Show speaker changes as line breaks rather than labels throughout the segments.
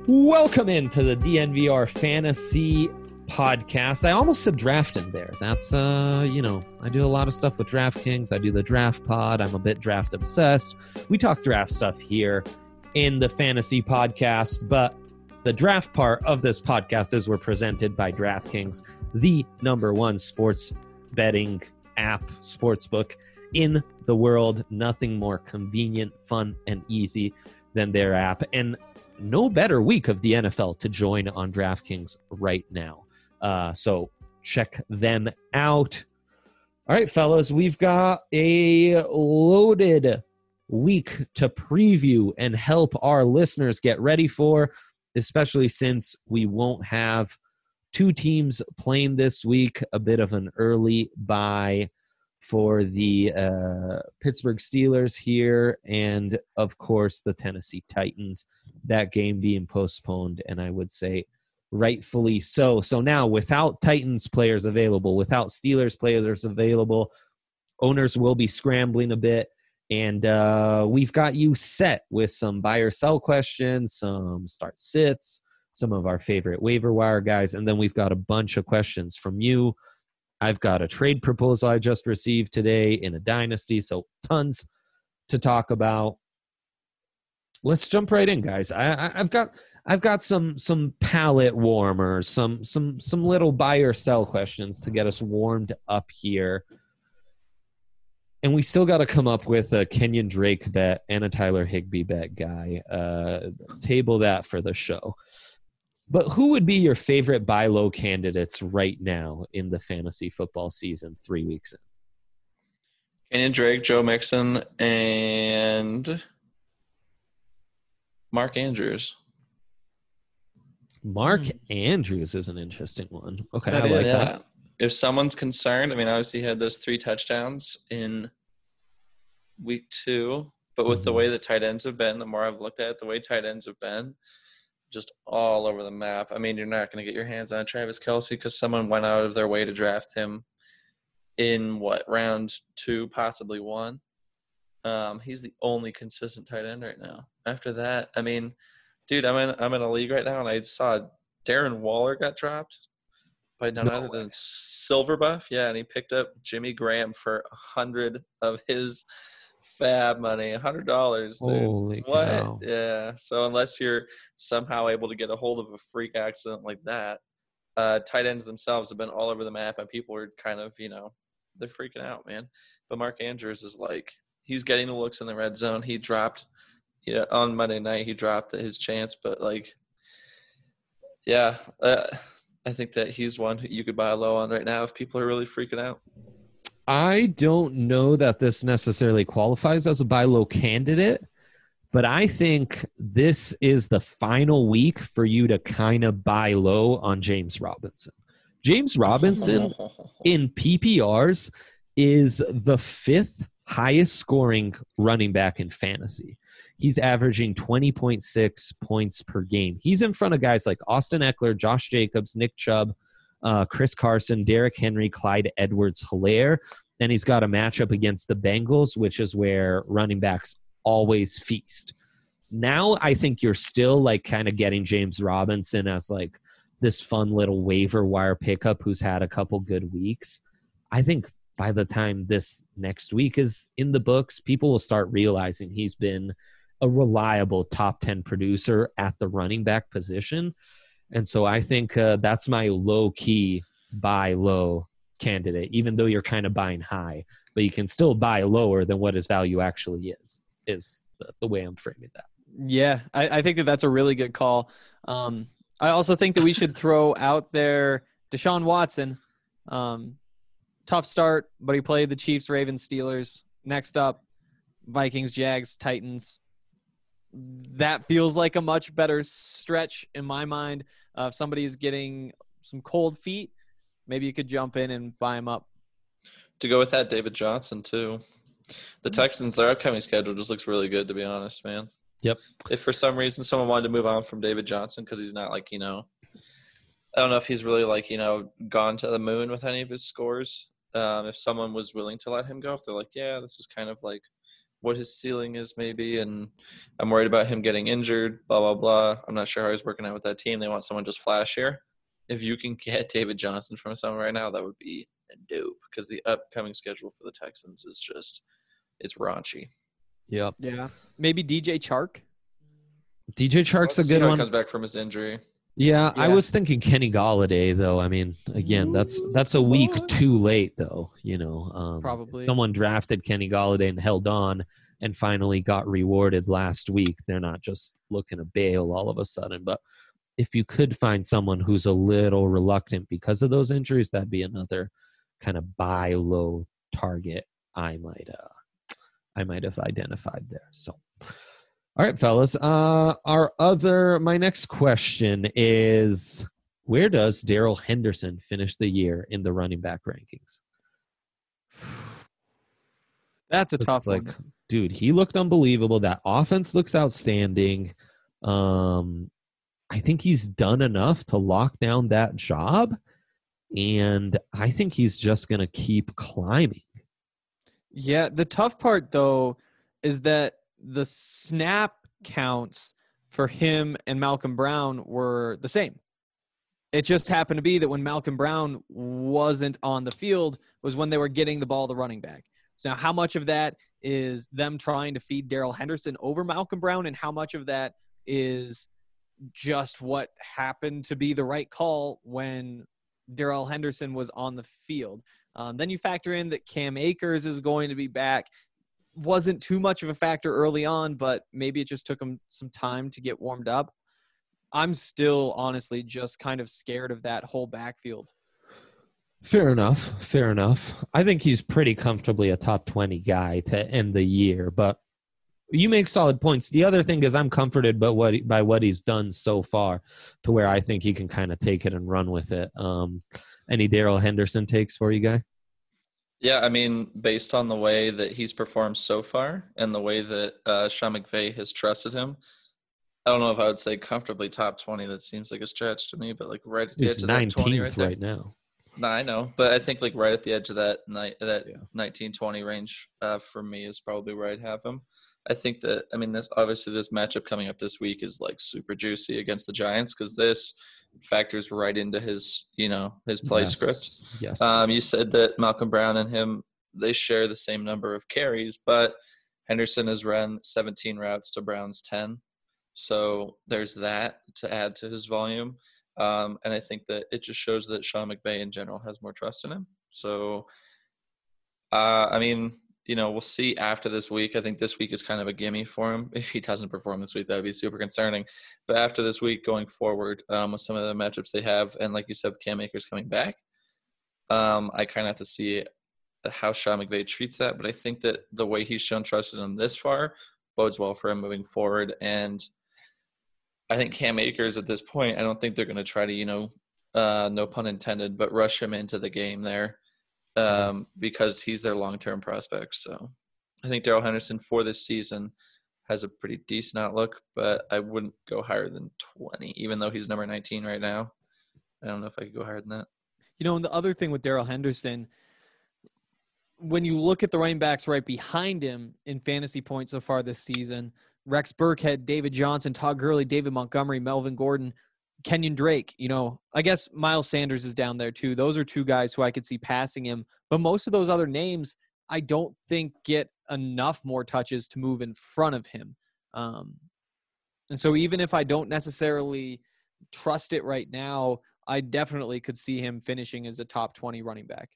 Welcome into the DNVR Fantasy Podcast. I almost said drafting there. That's, I do a lot of stuff with DraftKings. I do the draft pod. I'm a bit draft obsessed. We talk draft stuff here in the Fantasy Podcast, but the draft part of this podcast is we're presented by DraftKings, the number one sports betting app, sportsbook in the world. Nothing more convenient, fun, and easy than their app. And no better week of the NFL to join on DraftKings right now. So check them out. All right, fellas, we've got a loaded week to preview and help our listeners get ready for, especially since we won't have two teams playing this week. A bit of an early bye for the Pittsburgh Steelers here, and of course the Tennessee Titans, that game being postponed, and I would say rightfully so. So now, without Titans players available, without Steelers players available, owners will be scrambling a bit, and we've got you set with some buy or sell questions, some start sits, some of our favorite waiver wire guys, and then we've got a bunch of questions from you. I've got a trade proposal I just received today in a dynasty, so tons to talk about. Let's jump right in, guys. I've got some palate warmers, some little buy or sell questions to get us warmed up here. And we still got to come up with a Kenyon Drake bet and a Tyler Higbee bet, guy. Table that for the show. But who would be your favorite buy low candidates right now in the fantasy football season 3 weeks in?
Kenyon Drake, Joe Mixon, and Mark Andrews.
Mark Andrews is an interesting one. Okay,
I
like that.
If someone's concerned, I mean, obviously he had those 3 touchdowns in week 2, but with the way the tight ends have been, the more I've looked at it, the way tight ends have been, just all over the map. I mean, you're not going to get your hands on Travis Kelce because someone went out of their way to draft him in, round 2, possibly 1. He's the only consistent tight end right now. After that, I mean, dude, I'm in a league right now, and I saw Darren Waller got dropped by none other than Silverbuff. Yeah, and he picked up Jimmy Graham for 100 of his fab money, $100, dude.
Holy
what?
Cow.
Yeah. So unless you're somehow able to get a hold of a freak accident like that, tight ends themselves have been all over the map, and people are kind of, they're freaking out, man. But Mark Andrews is he's getting the looks in the red zone. He dropped, on Monday night, he dropped his chance, but I think that he's one who you could buy low on right now if people are really freaking out.
I don't know that this necessarily qualifies as a buy low candidate, but I think this is the final week for you to kind of buy low on James Robinson. James Robinson in PPRs is the 5th highest scoring running back in fantasy. He's averaging 20.6 points per game. He's in front of guys like Austin Eckler, Josh Jacobs, Nick Chubb, Chris Carson, Derrick Henry, Clyde Edwards-Helaire. Then he's got a matchup against the Bengals, which is where running backs always feast. Now I think you're still kind of getting James Robinson as this fun little waiver wire pickup who's had a couple good weeks. I think by the time this next week is in the books, people will start realizing he's been a reliable top 10 producer at the running back position. And so I think that's my low-key buy low candidate, even though you're kind of buying high. But you can still buy lower than what his value actually is the way I'm framing that.
Yeah, I think that's a really good call. I also think that we should throw out there Deshaun Watson. Tough start, but he played the Chiefs, Ravens, Steelers. Next up, Vikings, Jags, Titans. That feels like a much better stretch in my mind. If somebody's getting some cold feet, maybe you could jump in and buy him up.
To go with that, David Johnson, too. The Texans, their upcoming schedule just looks really good, to be honest, man.
Yep.
If for some reason someone wanted to move on from David Johnson because he's not I don't know if he's really gone to the moon with any of his scores. If someone was willing to let him go, if they're yeah, this is kind of what his ceiling is maybe, and I'm worried about him getting injured, blah, blah, blah. I'm not sure how he's working out with that team. They want someone just flashier. If you can get David Johnson from someone right now, that would be dope, because the upcoming schedule for the Texans is just – it's raunchy.
Yep.
Yeah. Maybe DJ Chark.
DJ Chark's a good
He
one.
comes back from his injury.
Yeah,
Yeah.
I was thinking Kenny Galladay, though. I mean, again, that's a week too late, though.
Probably.
Someone drafted Kenny Galladay and held on and finally got rewarded last week. They're not just looking to bail all of a sudden. But if you could find someone who's a little reluctant because of those injuries, that'd be another kind of buy low target I might have identified there. So. All right, fellas. My next question is, where does Darrell Henderson finish the year in the running back rankings?
That's a
It's
tough
like,
one.
dude, he looked unbelievable. That offense looks outstanding. I think he's done enough to lock down that job, and I think he's just going to keep climbing.
Yeah, the tough part, though, is that the snap counts for him and Malcolm Brown were the same. It just happened to be that when Malcolm Brown wasn't on the field was when they were getting the ball to running back. So now how much of that is them trying to feed Darrell Henderson over Malcolm Brown, and how much of that is just what happened to be the right call when Darrell Henderson was on the field? Then you factor in that Cam Akers is going to be back. Wasn't too much of a factor early on, but maybe it just took him some time to get warmed up. I'm still honestly just kind of scared of that whole backfield.
Fair enough. I think he's pretty comfortably a top 20 guy to end the year, but you make solid points. The other thing is I'm comforted by what he's done so far, to where I think he can kind of take it and run with it. Any Darrell Henderson takes for you, guy?
Yeah, I mean, based on the way that he's performed so far and the way that Sean McVay has trusted him, I don't know if I would say comfortably top 20. That seems like a stretch to me, but like right at the edge of that 20
right now.
No, I know, but I think like right at the edge of that 19-20 range for me is probably where I'd have him. I think that, I mean, this matchup coming up this week is like super juicy against the Giants, because this factors right into his play script.
Yes.
You said that Malcolm Brown and him, they share the same number of carries, but Henderson has run 17 routes to Brown's 10. So there's that to add to his volume. And I think that it just shows that Sean McVay in general has more trust in him. So, I mean, we'll see after this week. I think this week is kind of a gimme for him. If he doesn't perform this week, that would be super concerning. But after this week, going forward, with some of the matchups they have, and like you said, with Cam Akers coming back, I kind of have to see how Sean McVay treats that. But I think that the way he's shown trust in him this far bodes well for him moving forward. And I think Cam Akers at this point, I don't think they're going to try to, no pun intended, but rush him into the game there. Because he's their long-term prospect. So I think Darrell Henderson for this season has a pretty decent outlook, but I wouldn't go higher than 20, even though he's number 19 right now. I don't know if I could go higher than that.
And the other thing with Darrell Henderson, when you look at the running backs right behind him in fantasy points so far this season, Rex Burkhead, David Johnson, Todd Gurley, David Montgomery, Melvin Gordon, Kenyon Drake, I guess Miles Sanders is down there too. Those are two guys who I could see passing him. But most of those other names, I don't think get enough more touches to move in front of him. And so even if I don't necessarily trust it right now, I definitely could see him finishing as a top 20 running back.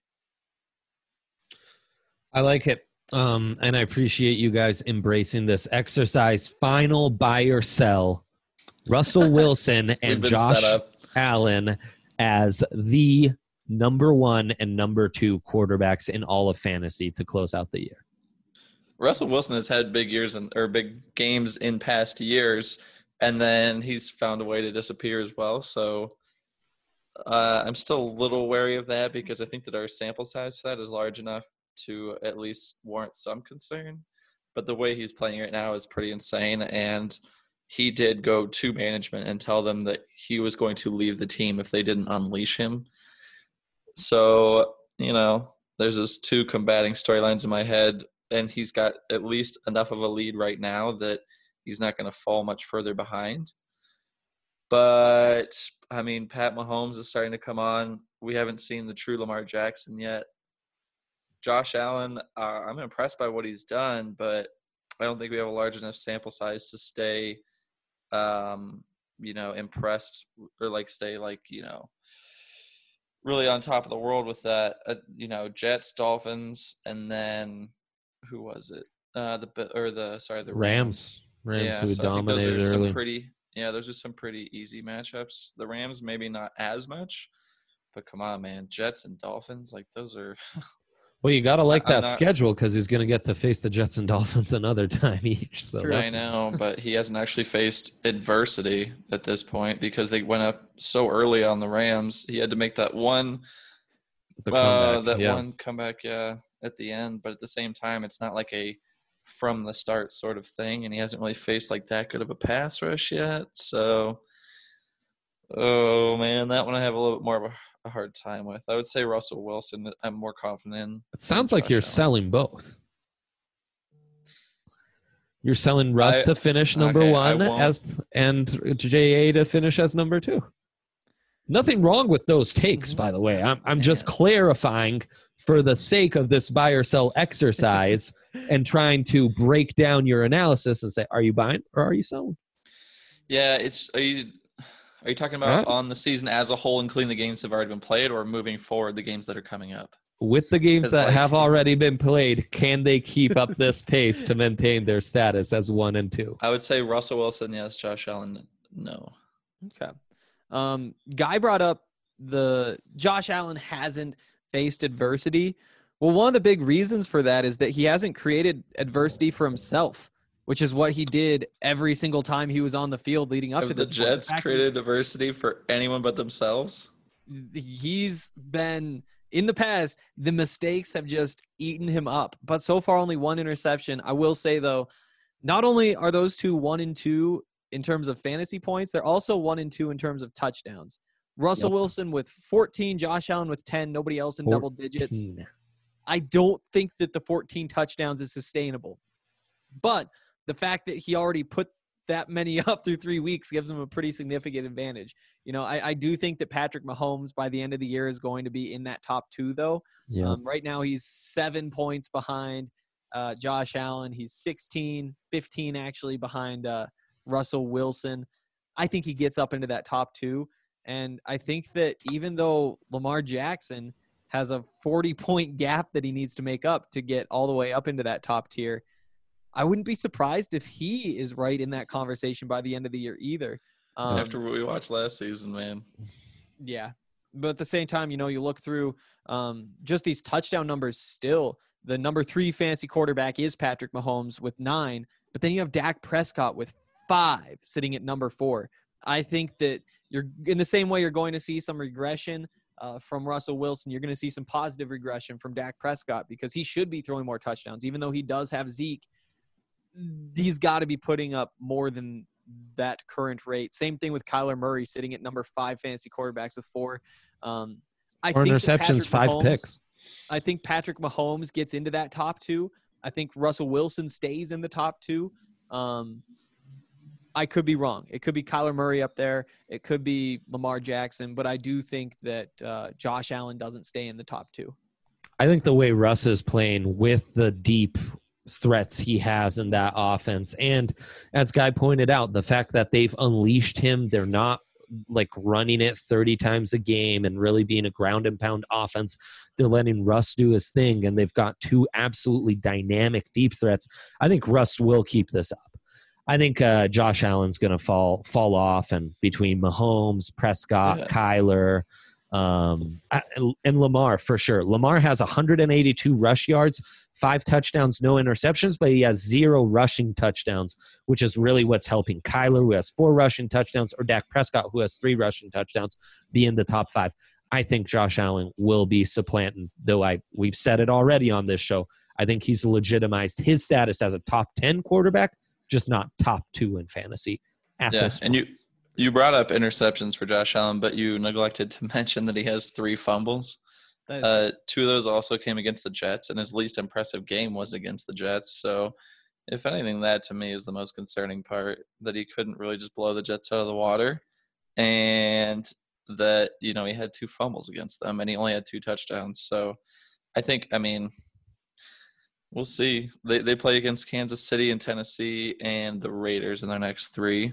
I like it. And I appreciate you guys embracing this exercise. Final buy or sell. Russell Wilson and Josh Allen as the number 1 and number 2 quarterbacks in all of fantasy to close out the year.
Russell Wilson has had big games in past years, and then he's found a way to disappear as well. So I'm still a little wary of that, because I think that our sample size for that is large enough to at least warrant some concern. But the way he's playing right now is pretty insane, and he did go to management and tell them that he was going to leave the team if they didn't unleash him. So, there's those two combating storylines in my head. and he's got at least enough of a lead right now that he's not going to fall much further behind. But, I mean, Pat Mahomes is starting to come on. We haven't seen the true Lamar Jackson yet. Josh Allen, I'm impressed by what he's done, but I don't think we have a large enough sample size to stay, impressed or stay really on top of the world with that. Jets, Dolphins, and then who was it? The
Rams.
Yeah,
who
so I think those
dominated
are
early.
those are some pretty easy matchups. The Rams maybe not as much, but come on, man, Jets and Dolphins, those are.
Well, you got to like that
not,
schedule because he's going to get to face the Jets and Dolphins another time each. So
I know, but he hasn't actually faced adversity at this point because they went up so early on the Rams. He had to make that one comeback, at the end. But at the same time, it's not like a from the start sort of thing, and he hasn't really faced that good of a pass rush yet. So, oh man, that one I have a little bit more of a hard time with. I would say Russell Wilson. I'm more confident in.
It sounds like you're selling both. You're selling Russ to finish number one and JA to finish as number two. Nothing wrong with those takes, by the way. I'm just clarifying for the sake of this buy or sell exercise and trying to break down your analysis and say, are you buying or are you selling?
Yeah, Are you talking about on the season as a whole, including the games that have already been played, or moving forward, the games that are coming up?
With the games that have already been played, can they keep up this pace to maintain their status as 1 and 2?
I would say Russell Wilson, yes. Josh Allen, no.
Okay. Guy brought up Josh Allen hasn't faced adversity. Well, one of the big reasons for that is that he hasn't created adversity for himself, which is what he did every single time he was on the field leading up to this.
The Jets created adversity for anyone but themselves?
He's been, in the past, the mistakes have just eaten him up. But so far, only 1 interception. I will say, though, not only are those two 1 and 2 in terms of fantasy points, they're also 1 and 2 in terms of touchdowns. Russell Wilson with 14, Josh Allen with 10, nobody else in double digits. I don't think that the 14 touchdowns is sustainable. But the fact that he already put that many up through 3 weeks gives him a pretty significant advantage. I do think that Patrick Mahomes by the end of the year is going to be in that top 2, though. Yeah. Right now he's 7 points behind Josh Allen. He's 15 actually behind Russell Wilson. I think he gets up into that top 2. And I think that even though Lamar Jackson has a 40-point gap that he needs to make up to get all the way up into that top tier, I wouldn't be surprised if he is right in that conversation by the end of the year either.
After what we watched last season, man.
Yeah. But at the same time, you look through just these touchdown numbers still. The number 3 fantasy quarterback is Patrick Mahomes with 9. But then you have Dak Prescott with 5 sitting at number 4. I think that you're in the same way you're going to see some regression from Russell Wilson. You're going to see some positive regression from Dak Prescott because he should be throwing more touchdowns. Even though he does have Zeke, he's got to be putting up more than that current rate. Same thing with Kyler Murray sitting at number 5 fantasy quarterbacks with 4.
4 interceptions, 5 picks.
I think Patrick Mahomes gets into that top 2. I think Russell Wilson stays in the top 2. I could be wrong. It could be Kyler Murray up there. It could be Lamar Jackson. But I do think that Josh Allen doesn't stay in the top 2.
I think the way Russ is playing with the deep threats he has in that offense, and as Guy pointed out, the fact that they've unleashed him, they're not running it 30 times a game and really being a ground and pound offense. They're letting Russ do his thing, and they've got 2 absolutely dynamic deep threats. I think Russ will keep this up. I think Josh Allen's going to fall off, and between Mahomes, Prescott, Kyler, and Lamar, for sure. Lamar has 182 rush yards, 5 touchdowns, no interceptions, but he has 0 rushing touchdowns, which is really what's helping Kyler, who has 4 rushing touchdowns, or Dak Prescott, who has 3 rushing touchdowns, be in the top 5. I think Josh Allen will be supplanting, though we've said it already on this show. I think he's legitimized his status as a top 10 quarterback, just not top 2 in fantasy.
And you brought up interceptions for Josh Allen, but you neglected to mention that he has 3 fumbles. Two of those also came against the Jets, and his least impressive game was against the Jets. So, if anything, that to me is the most concerning part, that he couldn't really just blow the Jets out of the water, and that, he had 2 fumbles against them, and he only had 2 touchdowns. So, I mean, we'll see. They play against Kansas City and Tennessee and the Raiders in their next 3.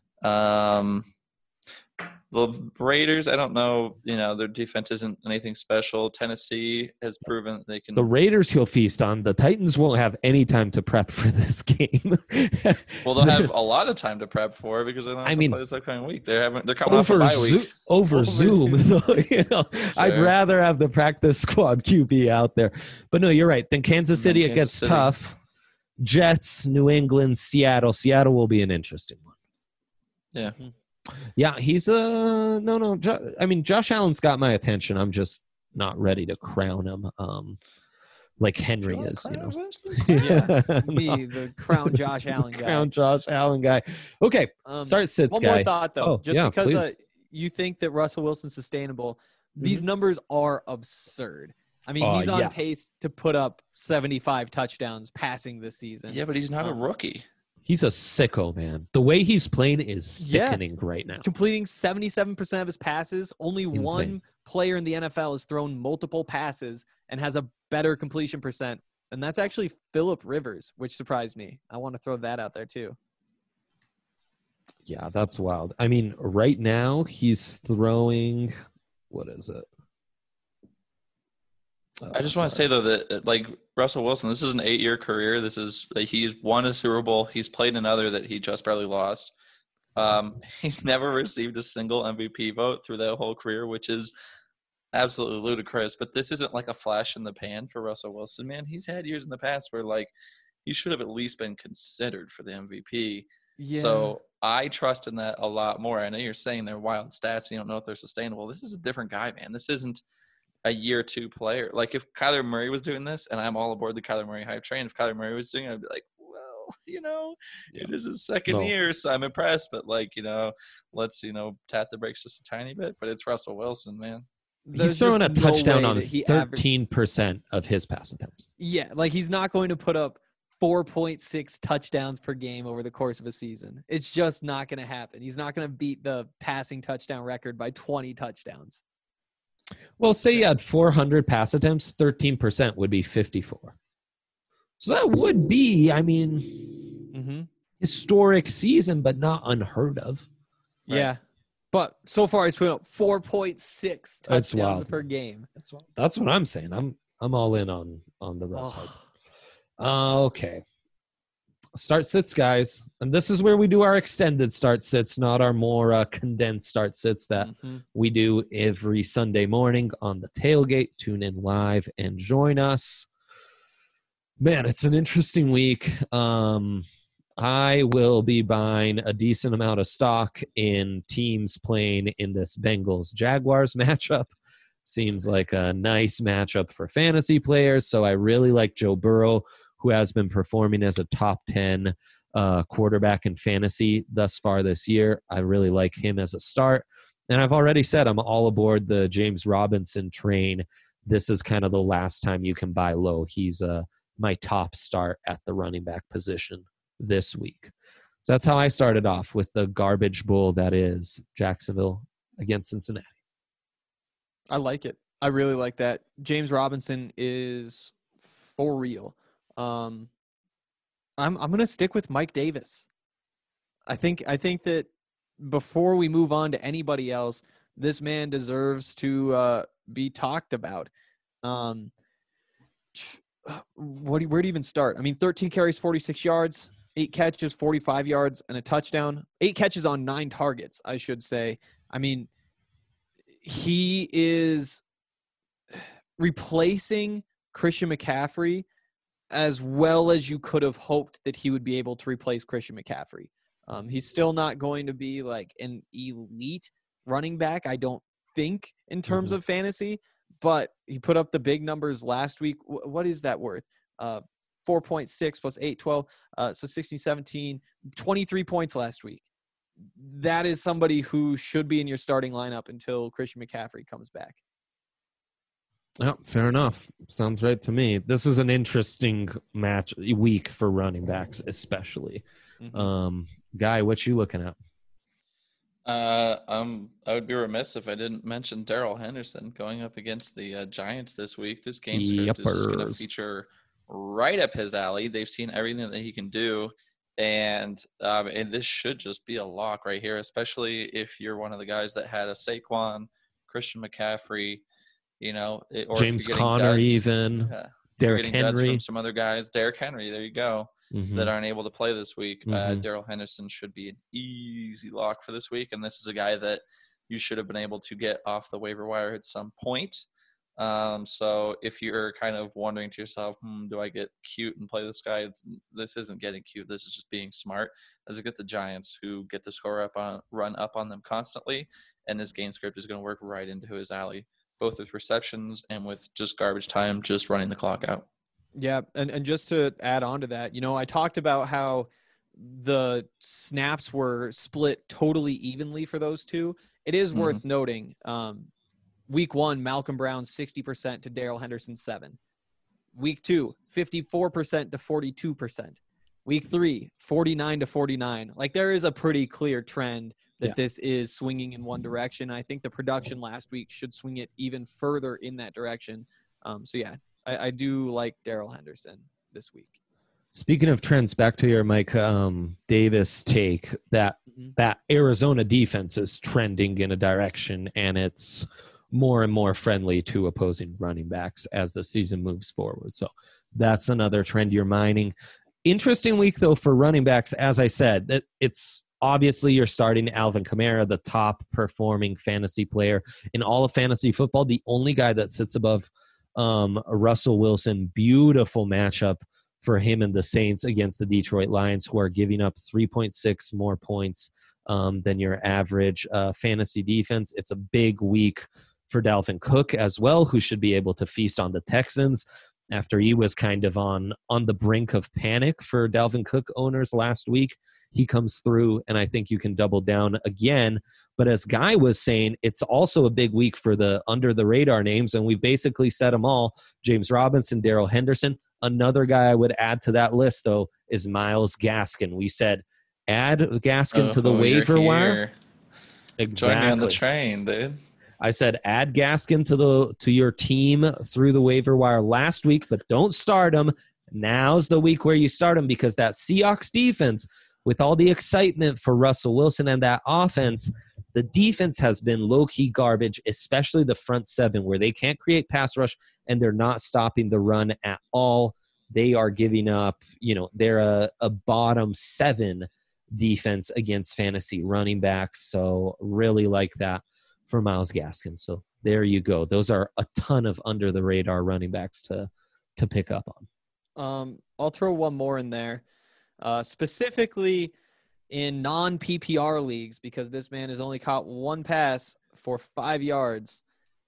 The Raiders, I don't know, their defense isn't anything special. Tennessee has proven that they can.
The Raiders he'll feast on. The Titans won't have any time to prep for this game.
Well, they'll have a lot of time to prep for it because they don't have to play this upcoming week. They're coming off a bye week.
Over Zoom. I'd rather have the practice squad QB out there. But no, you're right. Then Kansas City, it gets tough. Jets, New England, Seattle. Seattle will be an interesting one.
Yeah.
Yeah, he's no. Josh Allen's got my attention. I'm just not ready to crown him like Henry is.
Yeah, me, the crown Josh Allen guy.
Crown Josh Allen guy. Okay, start sits
one
guy.
One more thought though, because
you
think that Russell Wilson's sustainable. These numbers are absurd. I mean, he's on pace to put up 75 touchdowns passing this season.
Yeah, but he's not a rookie.
He's a sicko, man. The way he's playing is sickening right now.
Completing 77% of his passes. Only one player in the NFL has thrown multiple passes and has a better completion percent, and that's actually Phillip Rivers, which surprised me. I want to throw that out there too.
Yeah, that's wild. I mean, right now he's throwing – what is it?
I just want to say, though, that like Russell Wilson, this is an 8-year career. He's won a Super Bowl. He's played another that he just barely lost. He's never received a single MVP vote through that whole career, which is absolutely ludicrous. But this isn't like a flash in the pan for Russell Wilson, man. He's had years in the past where like he should have at least been considered for the MVP. Yeah. So I trust in that a lot more. I know you're saying they're wild stats and you don't know if they're sustainable. This is a different guy, man. This isn't a year 2 player. Like if Kyler Murray was doing this, and I'm all aboard the Kyler Murray hype train, if Kyler Murray was doing it, I'd be like, well, it is his second year, so I'm impressed. But like, let's, tap the brakes just a tiny bit. But it's Russell Wilson, man.
He's throwing a touchdown on 13% of his pass attempts.
Yeah, like he's not going to put up 4.6 touchdowns per game over the course of a season. It's just not going to happen. He's not going to beat the passing touchdown record by 20 touchdowns.
Well, say you had 400 pass attempts, 13% would be 54. So that would be, historic season, but not unheard of.
Right? Yeah. But so far he's put up 4.6 touchdowns per game.
That's what I'm saying. I'm all in on the Russ. Okay. Start sits, guys. And this is where we do our extended start sits, not our more condensed start sits that we do every Sunday morning on the tailgate. Tune in live and join us. Man, it's an interesting week. I will be buying a decent amount of stock in teams playing in this Bengals-Jaguars matchup. Seems like a nice matchup for fantasy players. So I really like Joe Burrow, who has been performing as a top 10 quarterback in fantasy thus far this year. I really like him as a start. And I've already said I'm all aboard the James Robinson train. This is kind of the last time you can buy low. He's my top start at the running back position this week. So that's how I started off with the garbage bowl that is Jacksonville against Cincinnati.
I like it. I really like that. James Robinson is for real. I'm going to stick with Mike Davis. I think that before we move on to anybody else, this man deserves to be talked about. Where do you even start? 13 carries, 46 yards, 8 catches, 45 yards, and a touchdown. 8 catches on 9 targets, I should say. He is replacing Christian McCaffrey as well as you could have hoped that he would be able to replace Christian McCaffrey. He's still not going to be like an elite running back, I don't think, in terms of fantasy, but he put up the big numbers last week. What is that worth? 4.6 plus 8, 12. So 16, 17, 23 points last week. That is somebody who should be in your starting lineup until Christian McCaffrey comes back.
Yeah, fair enough. Sounds right to me. This is an interesting week for running backs, especially. Guy, what you looking at?
I would be remiss if I didn't mention Darrell Henderson going up against the Giants this week. This game script is just going to feature right up his alley. They've seen everything that he can do, and this should just be a lock right here, especially if you're one of the guys that had a Saquon, Christian McCaffrey, or
James Conner, even Derrick Henry
from some other guys. Derrick Henry, there you go. That aren't able to play this week. Darrell Henderson should be an easy lock for this week, and this is a guy that you should have been able to get off the waiver wire at some point. So if you're kind of wondering to yourself, do I get cute and play this guy? This isn't getting cute. This is just being smart. As I get the Giants, who get the run up on them constantly, and this game script is going to work right into his alley, both with receptions and with just garbage time, just running the clock out.
Yeah, and just to add on to that, I talked about how the snaps were split totally evenly for those two. It is worth noting, week 1, Malcolm Brown 60% to Darrell Henderson 7. Week 2, 54% to 42%. Week 3, 49 to 49. Like, there is a pretty clear trend that this is swinging in one direction. I think the production last week should swing it even further in that direction. I do like Darrell Henderson this week.
Speaking of trends, back to your Mike Davis take, that Arizona defense is trending in a direction, and it's more and more friendly to opposing running backs as the season moves forward. So that's another trend you're mining. Interesting week, though, for running backs. As I said, it's obviously you're starting Alvin Kamara, the top performing fantasy player in all of fantasy football, the only guy that sits above Russell Wilson. Beautiful matchup for him and the Saints against the Detroit Lions, who are giving up 3.6 more points than your average fantasy defense. It's a big week for Dalvin Cook as well, who should be able to feast on the Texans after he was kind of on the brink of panic for Dalvin Cook owners last week. He comes through, and I think you can double down again. But as Guy was saying, it's also a big week for the under-the-radar names, and we basically said them all. James Robinson, Darrell Henderson. Another guy I would add to that list, though, is Myles Gaskin. We said add Gaskin to the waiver wire. Exactly.
Join me on the train, dude.
I said add Gaskin to your team through the waiver wire last week, but don't start him. Now's the week where you start him, because that Seahawks defense, with all the excitement for Russell Wilson and that offense, the defense has been low-key garbage, especially the front seven, where they can't create pass rush and they're not stopping the run at all. They are giving up, they're a bottom 7 defense against fantasy running backs. So really like that for Myles Gaskin. So there you go. Those are a ton of under-the-radar running backs to pick up on.
I'll throw one more in there. Specifically in non-PPR leagues, because this man has only caught one pass for 5 yards.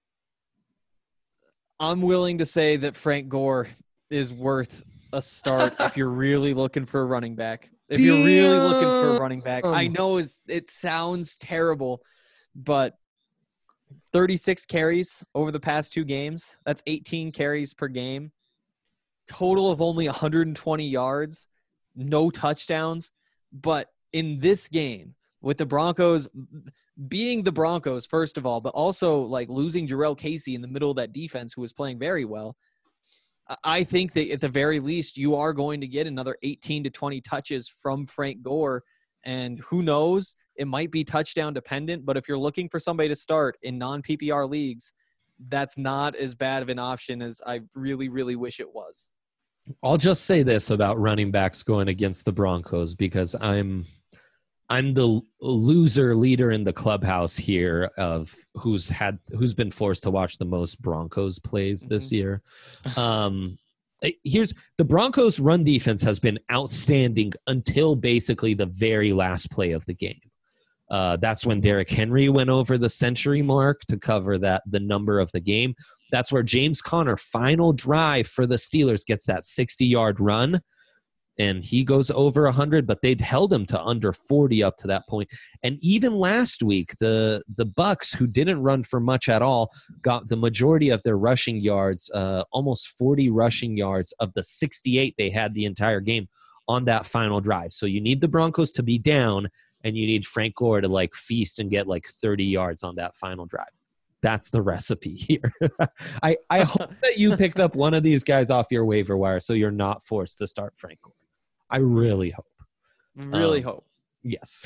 I'm willing to say that Frank Gore is worth a start if you're really looking for a running back. If you're really looking for a running back, I know it sounds terrible, but 36 carries over the past 2 games. That's 18 carries per game. Total of only 120 yards. No touchdowns. But in this game, with the Broncos being the Broncos, first of all, but also like losing Jarrell Casey in the middle of that defense, who was playing very well, I think that at the very least you are going to get another 18 to 20 touches from Frank Gore. And who knows, it might be touchdown dependent, but if you're looking for somebody to start in non-PPR leagues, that's not as bad of an option as I really, really wish it was.
I'll just say this about running backs going against the Broncos, because I'm the loser leader in the clubhouse here of who's been forced to watch the most Broncos plays this year. Here's the Broncos' run defense has been outstanding until basically the very last play of the game. That's when Derrick Henry went over the century mark to cover the number of the game. That's where James Conner, final drive for the Steelers, gets that 60-yard run. and he goes over 100, but they'd held him to under 40 up to that point. And even last week, the Bucks, who didn't run for much at all, got the majority of their rushing yards, almost 40 rushing yards of the 68 they had the entire game on that final drive. So you need the Broncos to be down, and you need Frank Gore to like feast and get like 30 yards on that final drive. That's the recipe here. I hope that you picked up one of these guys off your waiver wire so you're not forced to start Frank Gore. I really hope.
Really hope.
Yes.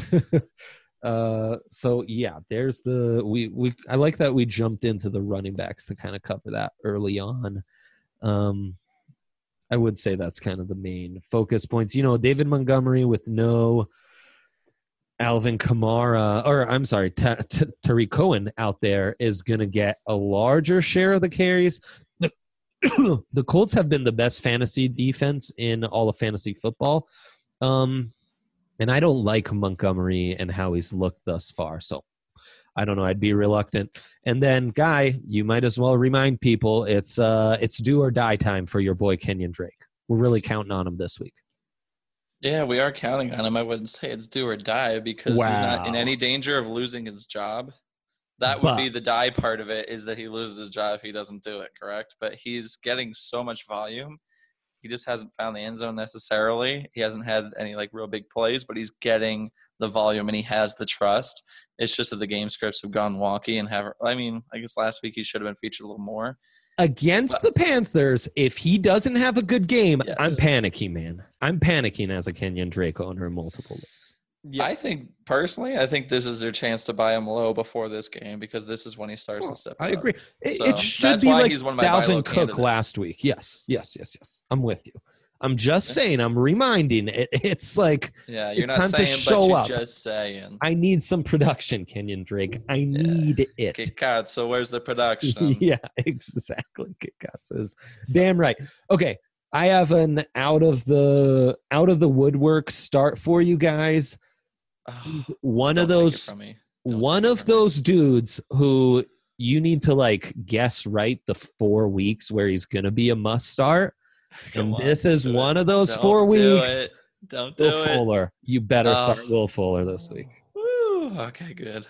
So yeah, there's the I like that we jumped into the running backs to kind of cover that early on. I would say that's kind of the main focus points. You know, David Montgomery with no Alvin Kamara, or I'm sorry, Tariq Cohen out there is going to get a larger share of the carries. The Colts have been the best fantasy defense in all of fantasy football. And I don't like Montgomery and how he's looked thus far. So I don't know. I'd be reluctant. And then, Guy, you might as well remind people it's do or die time for your boy Kenyon Drake. We're really counting on him this week.
Yeah, we are counting on him. I wouldn't say it's do or die because he's not in any danger of losing his job. That would be the die part of it, is that he loses his job if he doesn't do it, correct? But he's getting so much volume. He just hasn't found the end zone necessarily. He hasn't had any like real big plays, but he's getting the volume and he has the trust. It's just that the game scripts have gone wonky and I guess last week he should have been featured a little more.
Against the Panthers, if he doesn't have a good game, yes. I'm panicking, man. I'm panicking as a Kenyon Drake owner in multiple leagues.
Yeah. I think this is their chance to buy him low before this game because this is when he starts to step up.
I agree. It should be like he's one of my Dalvin Cook candidates. Last week. Yes. I'm with you. I'm just saying. I'm reminding. It's like
you're
it's
not
time
saying,
to show
but
up.
You're just saying.
I need some production, Kenyon Drake. I need it.
Kick out. So where's the production?
Yeah, exactly. Kick out says, damn right. Okay, I have an out of the woodwork start for you guys. One of those dudes who you need to like guess right the 4 weeks where he's gonna be a must start. This is one of those 4 weeks.
Don't do it.
Will Fuller. You better start Will Fuller this week.
Woo, okay, good.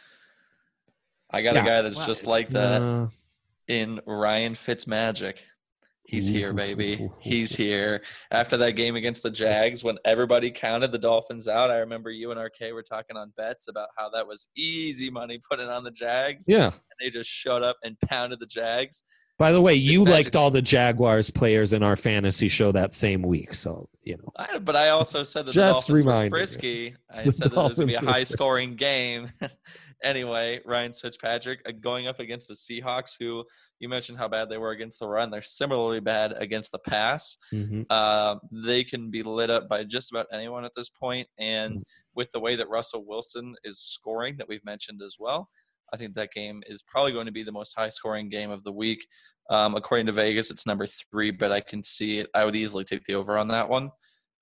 I got a guy that's just like that in Ryan Fitzmagic. He's here, baby. He's here. After that game against the Jags, when everybody counted the Dolphins out, I remember you and RK were talking on bets about how that was easy money putting on the Jags.
Yeah.
And they just showed up and pounded the Jags.
By the way, you liked all the Jaguars players in our fantasy show that same week, so you know.
But I also said that the Dolphins were frisky. I said that it was going to be a high-scoring game. Anyway, Ryan Fitzpatrick going up against the Seahawks, who you mentioned how bad they were against the run. They're similarly bad against the pass. Mm-hmm. They can be lit up by just about anyone at this point, and with the way that Russell Wilson is scoring that we've mentioned as well, I think that game is probably going to be the most high-scoring game of the week. According to Vegas, it's number 3, but I can see it. I would easily take the over on that one.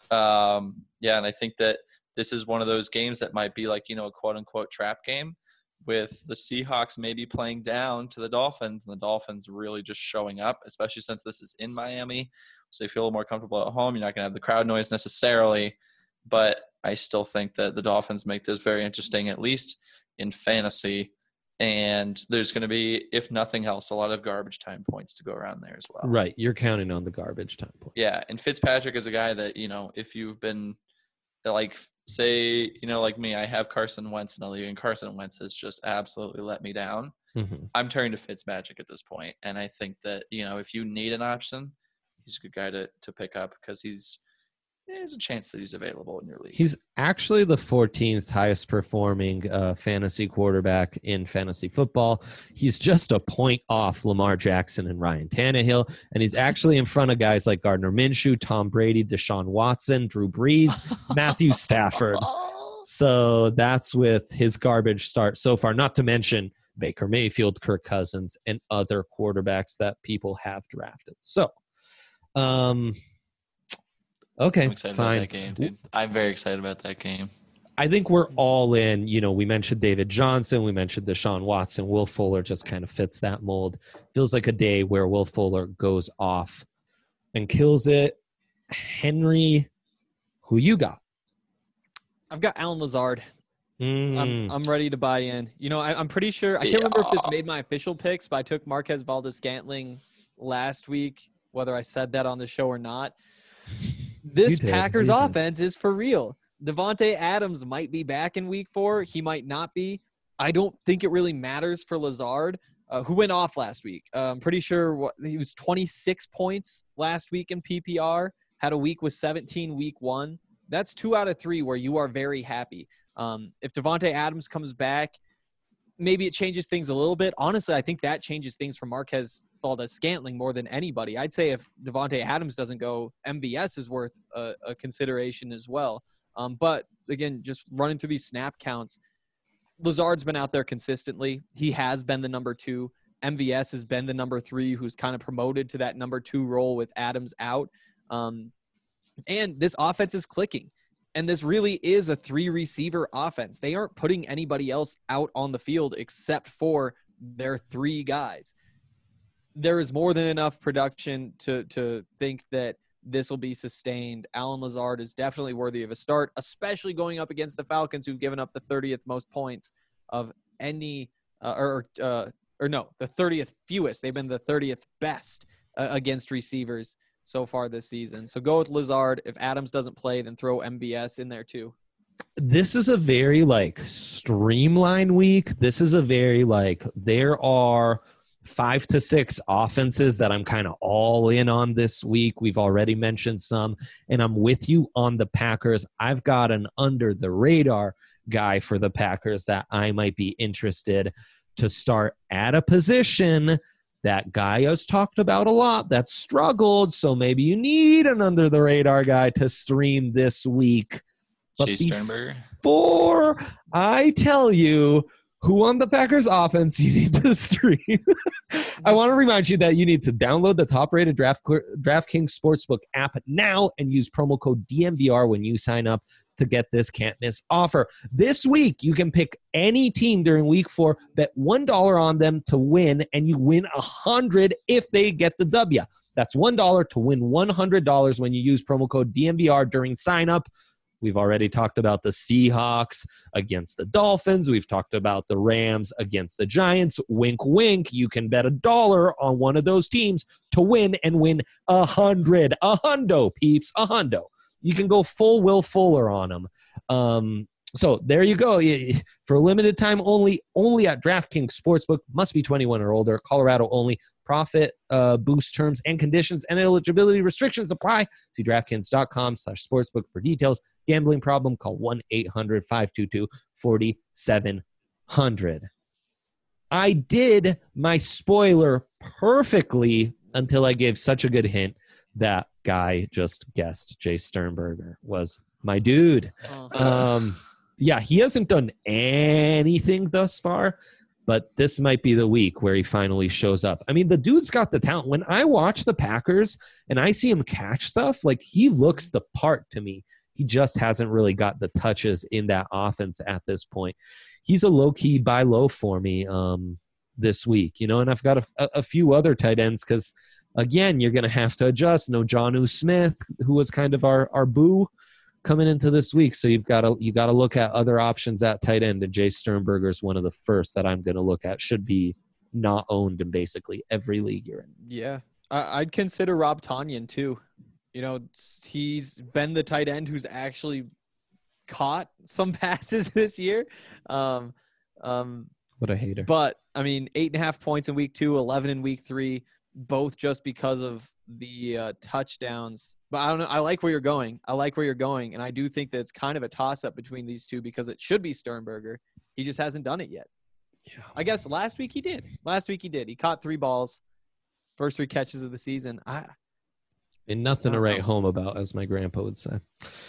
And I think that this is one of those games that might be like, a quote-unquote trap game with the Seahawks maybe playing down to the Dolphins and the Dolphins really just showing up, especially since this is in Miami. So they feel a little more comfortable at home. You're not going to have the crowd noise necessarily, but I still think that the Dolphins make this very interesting, at least in fantasy. And there's going to be, if nothing else, a lot of garbage time points to go around there as well.
Right. You're counting on the garbage time points.
Yeah. And Fitzpatrick is a guy that, if you've been like, say, like me, I have Carson Wentz in the league, and Carson Wentz has just absolutely let me down. Mm-hmm. I'm turning to Fitzmagic at this point. And I think that, if you need an option, he's a good guy to pick up because there's a chance that he's available in your league.
He's actually the 14th highest performing fantasy quarterback in fantasy football. He's just a point off Lamar Jackson and Ryan Tannehill, and he's actually in front of guys like Gardner Minshew, Tom Brady, Deshaun Watson, Drew Brees, Matthew Stafford. So that's with his garbage start so far, not to mention Baker Mayfield, Kirk Cousins, and other quarterbacks that people have drafted. So, okay,
I'm excited
fine.
About that game, dude. I'm very excited about that game.
I think we're all in. We mentioned David Johnson. We mentioned Deshaun Watson. Will Fuller just kind of fits that mold. Feels like a day where Will Fuller goes off and kills it. Henry Who you got?
I've got Alan Lazard. I'm ready to buy in. You know, I'm pretty sure. I can't remember if this made my official picks, but I took Marquez Valdes-Scantling last week, whether I said that on the show or not. This Packers offense is for real. Devontae Adams might be back in week 4. He might not be. I don't think it really matters for Lazard, who went off last week. I'm pretty sure he was 26 points last week in PPR, had a week with 17 week 1. That's 2 out of 3 where you are very happy. If Devontae Adams comes back, maybe it changes things a little bit. Honestly, I think that changes things for Marquez Valdes-Scantling more than anybody. I'd say if Devontae Adams doesn't go, MVS is worth a consideration as well. But again, just running through these snap counts, Lazard's been out there consistently. He has been the number 2. MVS has been the number 3, who's kind of promoted to that number 2 role with Adams out. And this offense is clicking. And this really is a 3-receiver offense. They aren't putting anybody else out on the field except for their 3 guys. There is more than enough production to think that this will be sustained. Alan Lazard is definitely worthy of a start, especially going up against the Falcons, who've given up the 30th most points of any the 30th fewest. They've been the 30th best against receivers so far this season. So go with Lazard. If Adams doesn't play, then throw MVS in there too.
This is a very streamlined week. This is a very there are 5 to 6 offenses that I'm kind of all in on this week. We've already mentioned some, and I'm with you on the Packers. I've got an under the radar guy for the Packers that I might be interested to start at a position that guy has talked about a lot that struggled. So maybe you need an under the radar guy to stream this week.
Jay Sternberger.
Before I tell you who on the Packers offense you need to stream, I want to remind you that you need to download the top-rated DraftKings Sportsbook app now and use promo code DNVR when you sign up to get this can't-miss offer. This week, you can pick any team during Week 4, bet $1 on them to win, and you win $100 if they get the W. That's $1 to win $100 when you use promo code DNVR during sign-up. We've already talked about the Seahawks against the Dolphins. We've talked about the Rams against the Giants. Wink, wink. You can bet $1 on one of those teams to win and win $100. A hundo, peeps. A hundo. You can go full Will Fuller on them. So there you go. For a limited time only at DraftKings Sportsbook. Must be 21 or older. Colorado only. Profit boost terms and conditions and eligibility restrictions apply. See DraftKings.com/sportsbook for details. Gambling problem? Call 1-800-522-4700. I did my spoiler perfectly until I gave such a good hint that guy just guessed. Jay Sternberger was my dude. Yeah, he hasn't done anything thus far, but this might be the week where he finally shows up. I mean, the dude's got the talent. When I watch the Packers and I see him catch stuff, he looks the part to me. He just hasn't really got the touches in that offense at this point. He's a low-key buy low for me this week, and I've got a few other tight ends because, again, you're going to have to adjust. No Jonnu Smith, who was kind of our boo coming into this week. So you got to look at other options at tight end, and Jay Sternberger is one of the first that I'm going to look at. Should be not owned in basically every league you're in.
Yeah, I'd consider Rob Tonyan too. He's been the tight end who's actually caught some passes this year.
What a hater.
But, 8.5 points in week 2, 11 in week 3, both just because of the touchdowns. But I don't know. I like where you're going. And I do think that it's kind of a toss-up between these two because it should be Sternberger. He just hasn't done it yet.
Yeah.
I guess last week he did. He caught 3 balls, first 3 catches of the season.
And nothing to write home about, as my grandpa would say.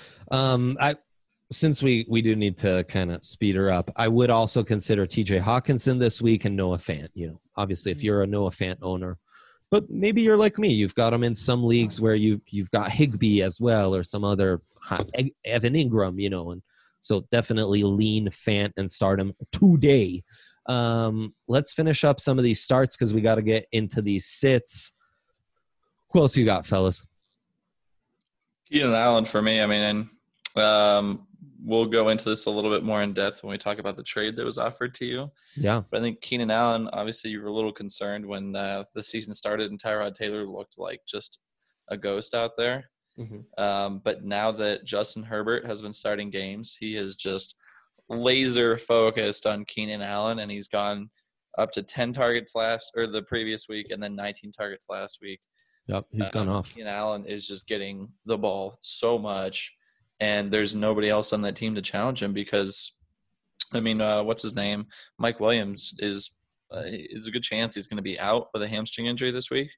Since we do need to kind of speed her up, I would also consider TJ Hawkinson this week and Noah Fant. Obviously, if you're a Noah Fant owner, but maybe you're like me, you've got him in some leagues where you've got Higbee as well, or some other Evan Ingram, and so definitely lean Fant and start him today. Let's finish up some of these starts because we got to get into these sits. Who else you got, fellas?
Keenan Allen for me. And We'll go into this a little bit more in depth when we talk about the trade that was offered to you.
Yeah.
But I think Keenan Allen, obviously you were a little concerned when the season started and Tyrod Taylor looked like just a ghost out there. But now that Justin Herbert has been starting games, he is just laser focused on Keenan Allen, and he's gone up to 10 targets the previous week and then 19 targets last week.
Yep, he's gone off.
Keenan Allen is just getting the ball so much, and there's nobody else on that team to challenge him because, I mean, what's his name? Mike Williams is a good chance he's going to be out with a hamstring injury this week.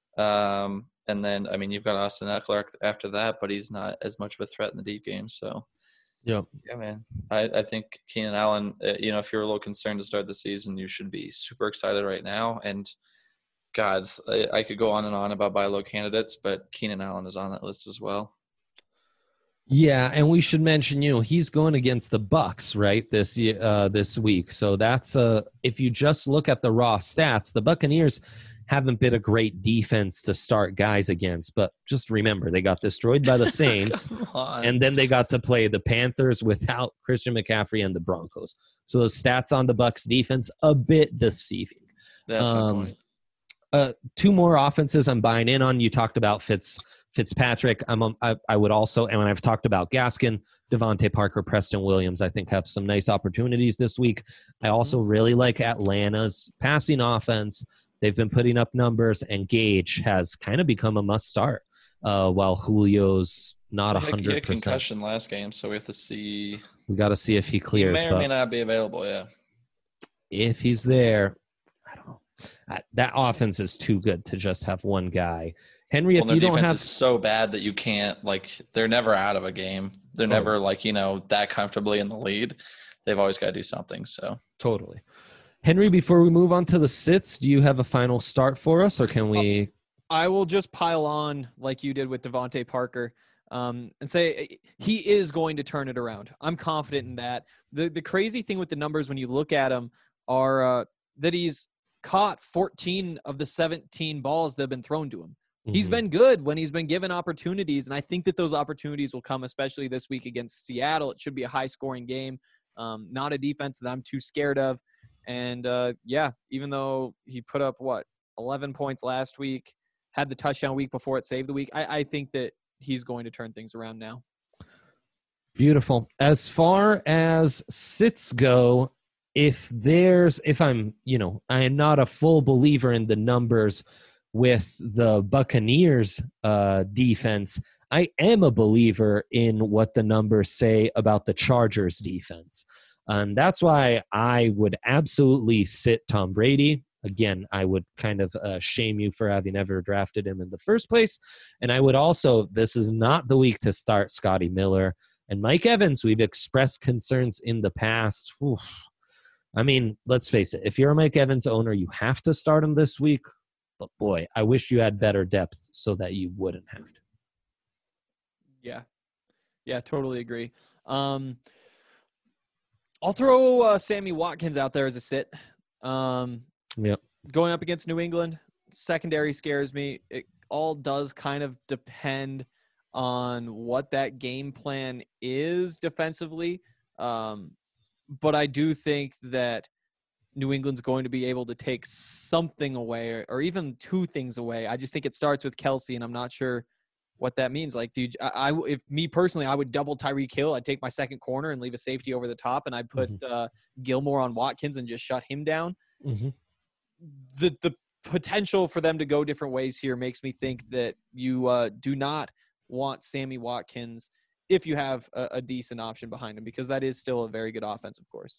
And then, I mean, you've got Austin Eckler after that, but he's not as much of a threat in the deep game. So, yeah, man, I think Keenan Allen, if you're a little concerned to start the season, you should be super excited right now. And, God, I could go on and on about buy low candidates, but Keenan Allen is on that list as well.
Yeah, and we should mention, he's going against the Bucs, right, this week. So that's if you just look at the raw stats, the Buccaneers haven't been a great defense to start guys against. But just remember, they got destroyed by the Saints, and then they got to play the Panthers without Christian McCaffrey and the Broncos. So those stats on the Bucs defense, a bit deceiving.
That's my point.
Two more offenses I'm buying in on. You talked about Fitzpatrick. I would also, and when I've talked about Gaskin, Devontae Parker, Preston Williams, I think have some nice opportunities this week. I also really like Atlanta's passing offense. They've been putting up numbers, and Gage has kind of become a must start while Julio's not 100%.
He had concussion last game, so we have to see.
We got to see if he clears.
He may or may not be available, yeah.
If he's there, I don't know. That offense is too good to just have one guy. Henry, if you don't have –
their defense is so bad that you can't – they're never out of a game. They're never that comfortably in the lead. They've always got to do something, so.
Totally. Henry, before we move on to the sits, do you have a final start for us, or can we –
I will just pile on like you did with Devontae Parker and say he is going to turn it around. I'm confident in that. The crazy thing with the numbers when you look at him are that he's caught 14 of the 17 balls that have been thrown to him. Mm-hmm. He's been good when he's been given opportunities, and I think that those opportunities will come, especially this week against Seattle. It should be a high-scoring game, not a defense that I'm too scared of. And, even though he put up, 11 points last week, had the touchdown week before it saved the week, I think that he's going to turn things around now.
Beautiful. As far as sits go, I am not a full believer in the numbers with the Buccaneers defense. I am a believer in what the numbers say about the Chargers defense. And that's why I would absolutely sit Tom Brady. Again, I would kind of shame you for having ever drafted him in the first place. And I would also, this is not the week to start Scotty Miller. And Mike Evans, we've expressed concerns in the past. Oof. I mean, let's face it. If you're a Mike Evans owner, you have to start him this week. But boy, I wish you had better depth so that you wouldn't have to.
Yeah, totally agree. I'll throw Sammy Watkins out there as a sit.
Yep.
Going up against New England, secondary scares me. It all does kind of depend on what that game plan is defensively. But I do think that New England's going to be able to take something away or even two things away. I just think it starts with Kelsey, and I'm not sure what that means. Like, dude, if me personally, I would double Tyreek Hill. I'd take my second corner and leave a safety over the top, and I'd put Gilmore on Watkins and just shut him down. Mm-hmm. The potential for them to go different ways here makes me think that you do not want Sammy Watkins if you have a decent option behind him, because that is still a very good offense, of course.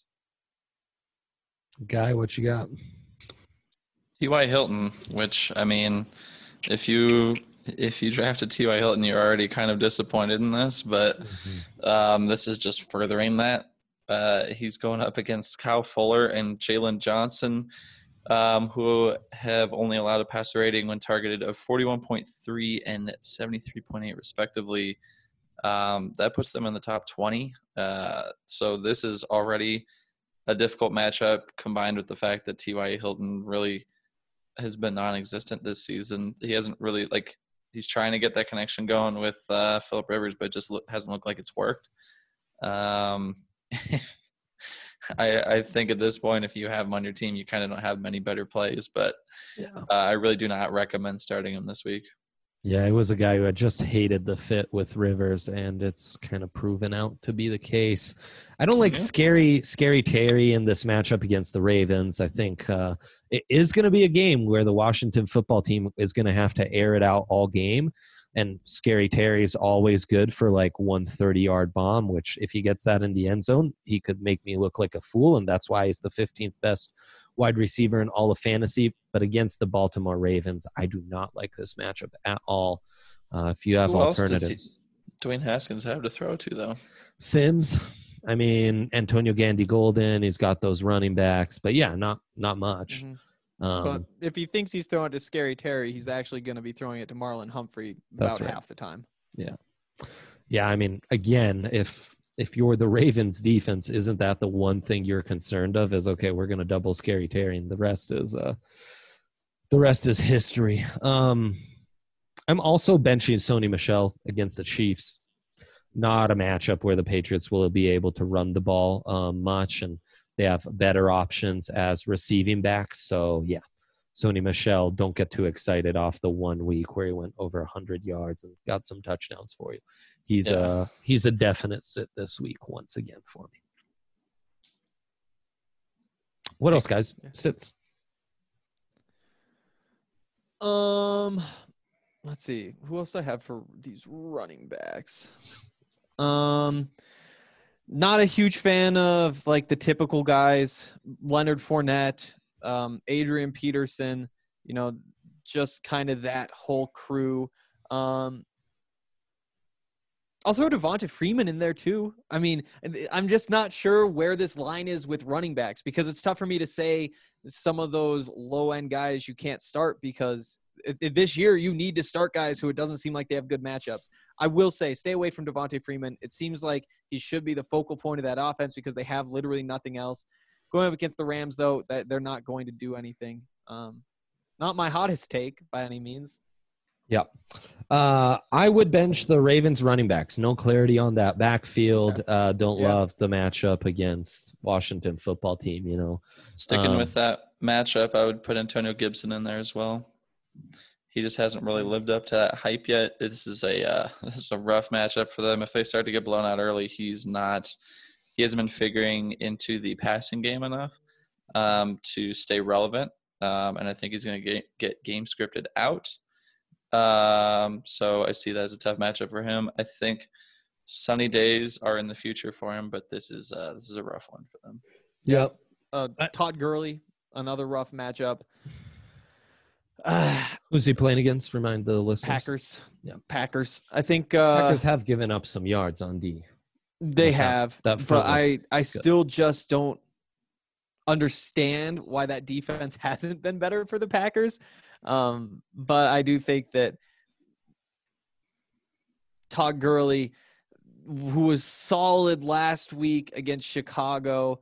Guy, what you got?
T.Y. Hilton, which, I mean, if you drafted T.Y. Hilton, you're already kind of disappointed in this, but this is just furthering that. He's going up against Kyle Fuller and Jalen Johnson, who have only allowed a passer rating when targeted of 41.3 and 73.8 respectively. That puts them in the top 20. So this is already a difficult matchup, combined with the fact that T.Y. Hilton really has been non-existent this season. He hasn't really, he's trying to get that connection going with Phillip Rivers, but just hasn't looked like it's worked. I think at this point, if you have him on your team, you kind of don't have many better plays. But I really do not recommend starting him this week.
Yeah, it was a guy who had just hated the fit with Rivers, and it's kind of proven out to be the case. I don't like scary Terry in this matchup against the Ravens. I think it is going to be a game where the Washington football team is going to have to air it out all game. And Scary Terry is always good for like 130-yard bomb, which if he gets that in the end zone, he could make me look like a fool, and that's why he's the 15th best wide receiver in all of fantasy. But against the Baltimore Ravens, I do not like this matchup at all. If you have alternatives.
Dwayne Haskins have to throw to, though?
Sims. I mean, Antonio Gandy-Golden. He's got those running backs. But, yeah, not much.
Mm-hmm. But if he thinks he's throwing to Scary Terry, he's actually going to be throwing it to Marlon Humphrey about half the time.
Yeah. Yeah, I mean, again, if you're the Ravens defense, isn't that the one thing you're concerned of is, okay, we're going to double Scary Terry, and the rest is history. I'm also benching Sony Michel against the Chiefs. Not a matchup where the Patriots will be able to run the ball much, and they have better options as receiving backs. So, yeah, Sony Michel, don't get too excited off the 1 week where he went over 100 yards and got some touchdowns for you. He's a definite sit this week once again for me. What else, guys? Sits.
Let's see. Who else do I have for these running backs? Not a huge fan of like the typical guys. Leonard Fournette, Adrian Peterson, just kind of that whole crew. I'll throw Devonta Freeman in there too. I mean, I'm just not sure where this line is with running backs because it's tough for me to say some of those low-end guys you can't start because this year you need to start guys who it doesn't seem like they have good matchups. I will say stay away from Devonta Freeman. It seems like he should be the focal point of that offense because they have literally nothing else. Going up against the Rams, though, that they're not going to do anything. Not my hottest take by any means.
Yep. I would bench the Ravens running backs. No clarity on that backfield. Don't love the matchup against Washington football team,
Sticking with that matchup, I would put Antonio Gibson in there as well. He just hasn't really lived up to that hype yet. This is a rough matchup for them. If they start to get blown out early, he hasn't been figuring into the passing game enough to stay relevant. And I think he's going to get game scripted out. So I see that as a tough matchup for him. I think sunny days are in the future for him, but this is a rough one for them.
Yep.
Todd Gurley, another rough matchup.
Who's he playing against? Remind the listeners.
Packers.
Yeah,
Packers. I think
Packers have given up some yards on D.
They have,
but
I still just don't understand why that defense hasn't been better for the Packers. But I do think that Todd Gurley, who was solid last week against Chicago,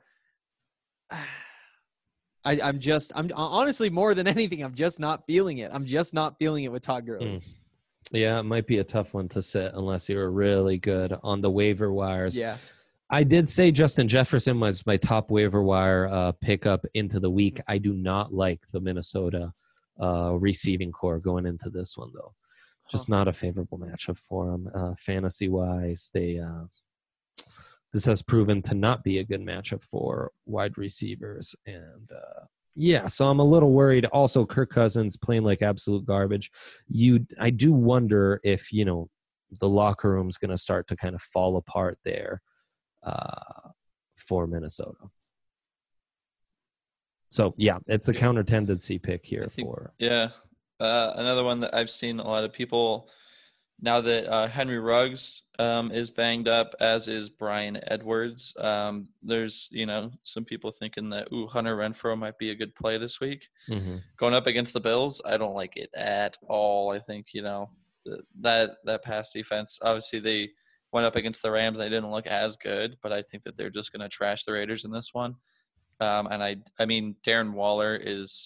I'm honestly more than anything, I'm just not feeling it. I'm just not feeling it with Todd Gurley.
Yeah, it might be a tough one to sit unless you were really good on the waiver wires.
Yeah.
I did say Justin Jefferson was my top waiver wire pickup into the week. I do not like the Minnesota receiving core going into this one, though. Just not a favorable matchup for them. Fantasy-wise, this has proven to not be a good matchup for wide receivers. And, so I'm a little worried. Also, Kirk Cousins playing like absolute garbage. I do wonder if, the locker room's going to start to kind of fall apart there for Minnesota. So, it's a counter tendency pick here
another one that I've seen a lot of people now that Henry Ruggs is banged up, as is Bryan Edwards. There's, some people thinking that, Hunter Renfrow might be a good play this week.
Mm-hmm.
Going up against the Bills, I don't like it at all. I think, that pass defense, obviously they went up against the Rams. They didn't look as good, but I think that they're just going to trash the Raiders in this one. And I mean, Darren Waller is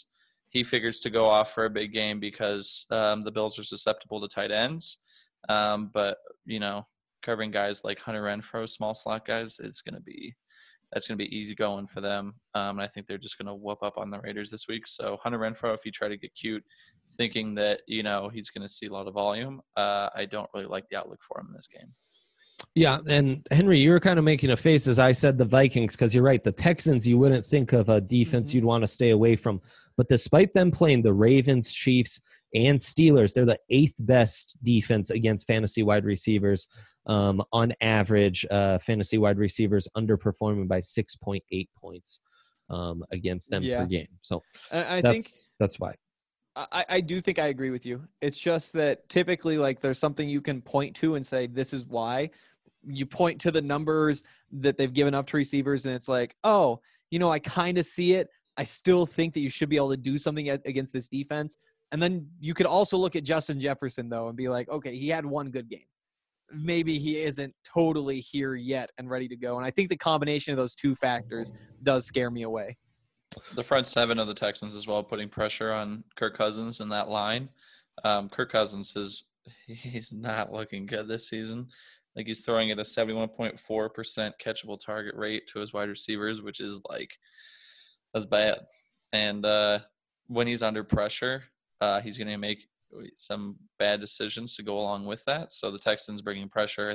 he figures to go off for a big game because the Bills are susceptible to tight ends. But, covering guys like Hunter Renfrow, small slot guys, that's going to be easy going for them. And I think they're just going to whoop up on the Raiders this week. So Hunter Renfrow, if you try to get cute thinking that, he's going to see a lot of volume, I don't really like the outlook for him in this game.
Yeah, and Henry, you were kind of making a face as I said the Vikings, because you're right. The Texans, you wouldn't think of a defense you'd want to stay away from. But despite them playing the Ravens, Chiefs, and Steelers, they're the 8th best defense against fantasy wide receivers. On average, fantasy wide receivers underperforming by 6.8 points against them per game. So
I think
that's why.
I do think I agree with you. It's just that typically, like, there's something you can point to and say, this is why. You point to the numbers that they've given up to receivers, and it's like, oh, I kind of see it. I still think that you should be able to do something against this defense. And then you could also look at Justin Jefferson, though, and be like, okay, he had one good game. Maybe he isn't totally here yet and ready to go. And I think the combination of those two factors does scare me away.
The front seven of the Texans as well, putting pressure on Kirk Cousins in that line. Kirk Cousins he's not looking good this season. Like, he's throwing at a 71.4% catchable target rate to his wide receivers, which is that's bad. And when he's under pressure, he's going to make some bad decisions to go along with that. So the Texans bringing pressure,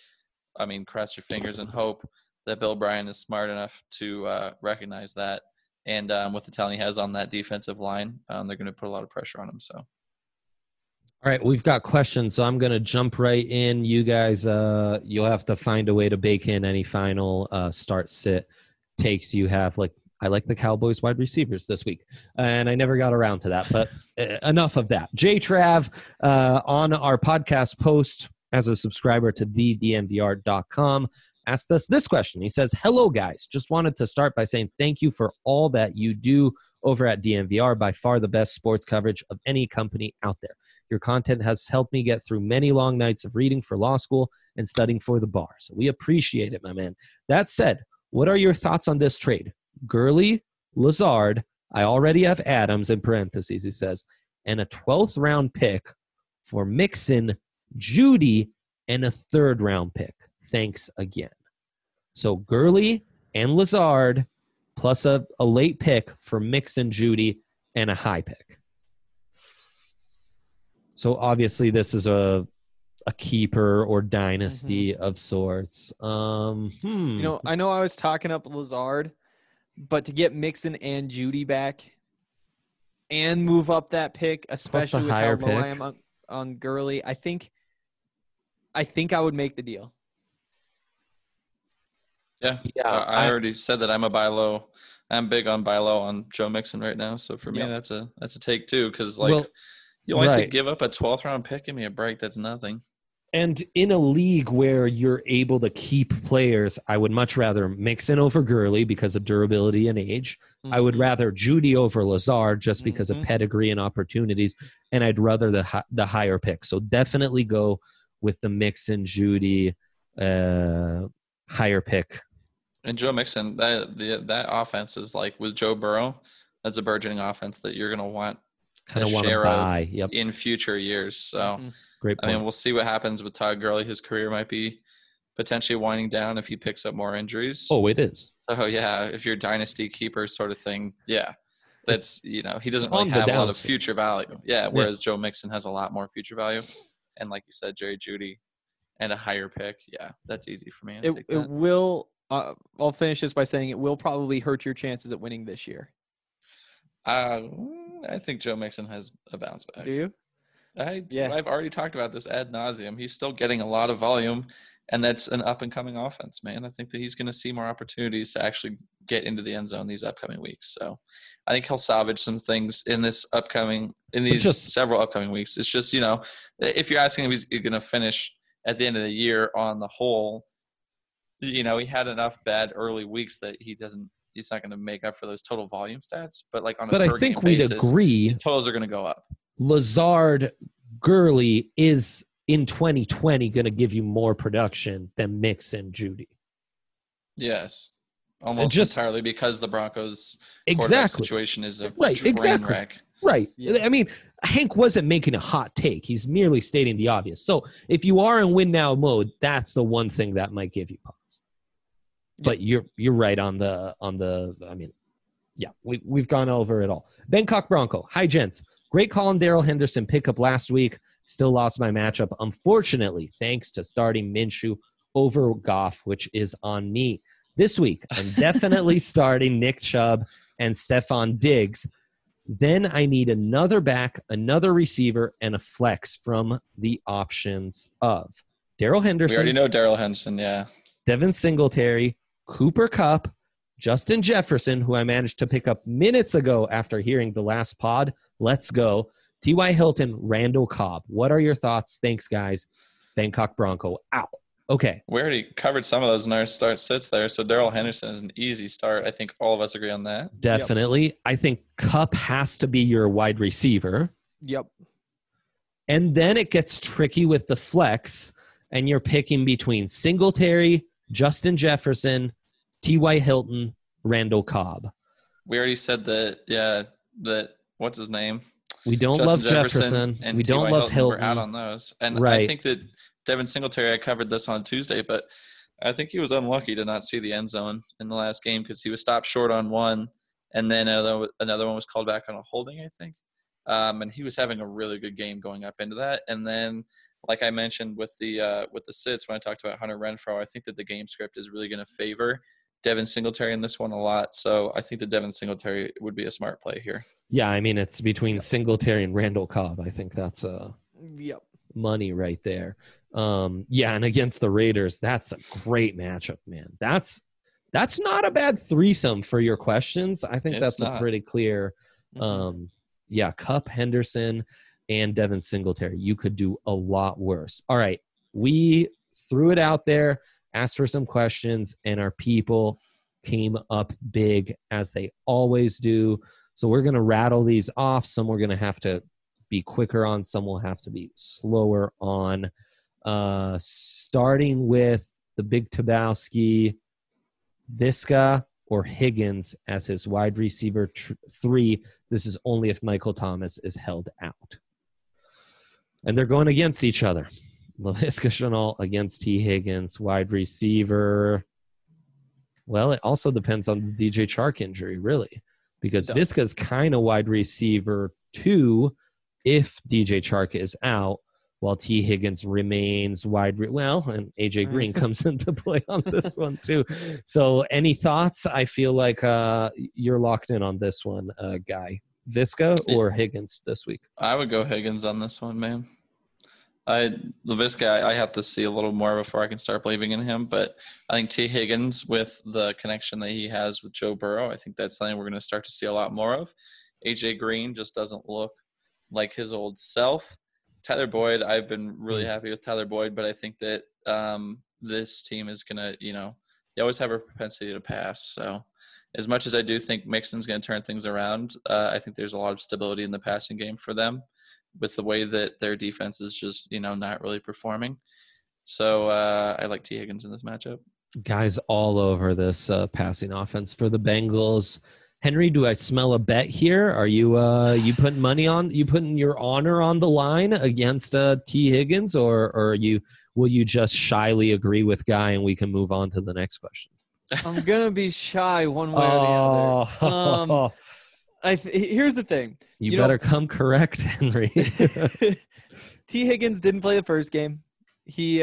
cross your fingers and hope that Bill Bryan is smart enough to recognize that. And with the talent he has on that defensive line, they're going to put a lot of pressure on him. So,
all right, we've got questions, so I'm going to jump right in. You guys, you'll have to find a way to bake in any final start-sit takes you have. Like, I like the Cowboys wide receivers this week, and I never got around to that, but enough of that. J Trav on our podcast post as a subscriber to thednvr.com asked us this question. He says, hello, guys. Just wanted to start by saying thank you for all that you do over at DNVR, by far the best sports coverage of any company out there. Your content has helped me get through many long nights of reading for law school and studying for the bar. So we appreciate it, my man. That said, what are your thoughts on this trade? Gurley, Lazard, I already have Adams in parentheses, he says, and a 12th round pick for Mixon, Judy, and a 3rd round pick. Thanks again. So Gurley and Lazard plus a late pick for Mixon, Judy, and a high pick. So obviously this is a keeper or dynasty of sorts.
I know I was talking up Lazard, but to get Mixon and Judy back and move up that pick, especially with how low I am on Gurley, I think I would make the deal.
Yeah. I already said that I'm a buy low. I'm big on buy low on Joe Mixon right now. So for me, that's a take too. Because you only have to give up a 12th round pick. Give me a break. That's nothing.
And in a league where you're able to keep players, I would much rather Mixon over Gurley because of durability and age. I would rather Judy over Lazard just because of pedigree and opportunities. And I'd rather the higher pick. So definitely go with the Mixon, Judy, higher pick.
And Joe Mixon, that offense is like with Joe Burrow, that's a burgeoning offense that you're going to want a share of in future years. So,
great point.
We'll see what happens with Todd Gurley. His career might be potentially winding down if he picks up more injuries.
Oh, it is.
So, if you're a dynasty keeper sort of thing, that's, he doesn't really have a lot of future value. Whereas Joe Mixon has a lot more future value. And like you said, Jerry Jeudy and a higher pick. Yeah, that's easy for me.
It will. I'll finish this by saying it will probably hurt your chances at winning this year.
I think Joe Mixon has a bounce back.
Do you?
I've already talked about this ad nauseum. He's still getting a lot of volume, and that's an up-and-coming offense, man. I think that he's going to see more opportunities to actually get into the end zone these upcoming weeks. So I think he'll salvage some things in these several upcoming weeks. It's just, if you're asking if he's going to finish at the end of the year on the whole, he had enough bad early weeks that he's not going to make up for those total volume stats. But like on a per game basis, I think we'd agree totals are going to go up.
Lazard, Gurley is in 2020 going to give you more production than Mixon, Judy.
Yes, almost
Just-
entirely because the Broncos' quarterback
Exactly.
situation is a
Right,
train
exactly.
wreck.
Right.
Yeah.
I mean, Hank wasn't making a hot take. He's merely stating the obvious. So if you are in win now mode, that's the one thing that might give you pause. But you're right on the I mean, yeah, we've gone over it all. Bangkok Bronco. Hi, gents. Great call on Darrell Henderson pickup last week. Still lost my matchup, unfortunately, thanks to starting Minshew over Goff, which is on me. This week, I'm definitely starting Nick Chubb and Stephon Diggs. Then I need another back, another receiver, and a flex from the options of Darrell
We
Henderson,
already know Darrell Henderson, yeah.
Devin Singletary, Cooper Kupp, Justin Jefferson, who I managed to pick up minutes ago after hearing the last pod. Let's go. T.Y. Hilton, Randall Cobb. What are your thoughts? Thanks, guys. Bangkok Bronco. Ow. Okay.
We already covered some of those in our start sits there, so Darrell Henderson is an easy start. I think all of us agree on that.
Definitely. I think Kupp has to be your wide receiver.
Yep.
And then it gets tricky with the flex, and you're picking between Singletary, Justin Jefferson, T.Y. Hilton, Randall Cobb.
We already said that what's his name?
We don't
Justin
love Jefferson.
and
We don't
T.Y.
love
Hilton. We're
Hilton.
out on those. And
Right.
I think that Devin Singletary, I covered this on Tuesday, but I think he was unlucky to not see the end zone in the last game because he was stopped short on one, and then another one was called back on a holding, I think. And he was having a really good game going up into that. And then, like I mentioned with the sits when I talked about Hunter Renfrow, I think that the game script is really going to favor Devin Singletary in this one a lot. So I think that Devin Singletary would be a smart play here.
Yeah, I mean, it's between Singletary and Randall Cobb. I think that's
Yep.
money right there. Yeah, and against the Raiders, that's a great matchup, man. That's not a bad threesome for your questions. I think
It's
that's
not.
a pretty clear. Yeah, Kupp, Henderson, and Devin Singletary. You could do a lot worse. All right, we threw it out there, asked for some questions, and our people came up big as they always do. So we're going to rattle these off. Some we're going to have to be quicker on. Some will have to be slower on. Starting with the Big Tabowski, Visca or Higgins as his wide receiver 3. This is only if Michael Thomas is held out. And they're going against each other. Laviska Shenault against T. Higgins, wide receiver. Well, it also depends on the DJ Chark injury, really, because Visca's kind of wide receiver 2 if DJ Chark is out, while T. Higgins remains and AJ Green comes into play on this one too. So any thoughts? I feel like you're locked in on this one, Guy. Visca or Higgins this week?
I would go Higgins on this one, man. Laviska, I have to see a little more before I can start believing in him. But I think T. Higgins, with the connection that he has with Joe Burrow, I think that's something we're going to start to see a lot more of. AJ Green just doesn't look like his old self. Tyler Boyd, I've been really happy with Tyler Boyd, but I think that this team is going to, you always have a propensity to pass. So as much as I do think Mixon's going to turn things around, I think there's a lot of stability in the passing game for them with the way that their defense is just, not really performing. So I like T. Higgins in this matchup.
Guys all over this passing offense for the Bengals. Henry, do I smell a bet here? Are you putting money on? You putting your honor on the line against T. Higgins, or will you just shyly agree with Guy and we can move on to the next question?
I'm gonna be shy one way or the other. Here's the thing.
You better come correct, Henry.
T. Higgins didn't play the first game. He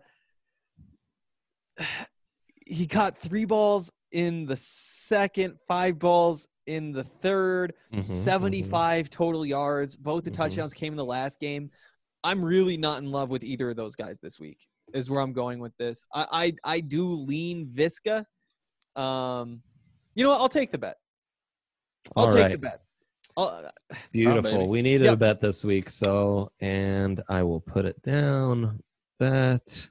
caught 3 balls in the second, 5 balls in the third, 75 total yards. Both the touchdowns came in the last game. I'm really not in love with either of those guys this week, is where I'm going with this. I do lean Visca. You know what? I'll take the bet. I'll take the bet.
Beautiful. We needed a bet this week, and I will put it down. Bet.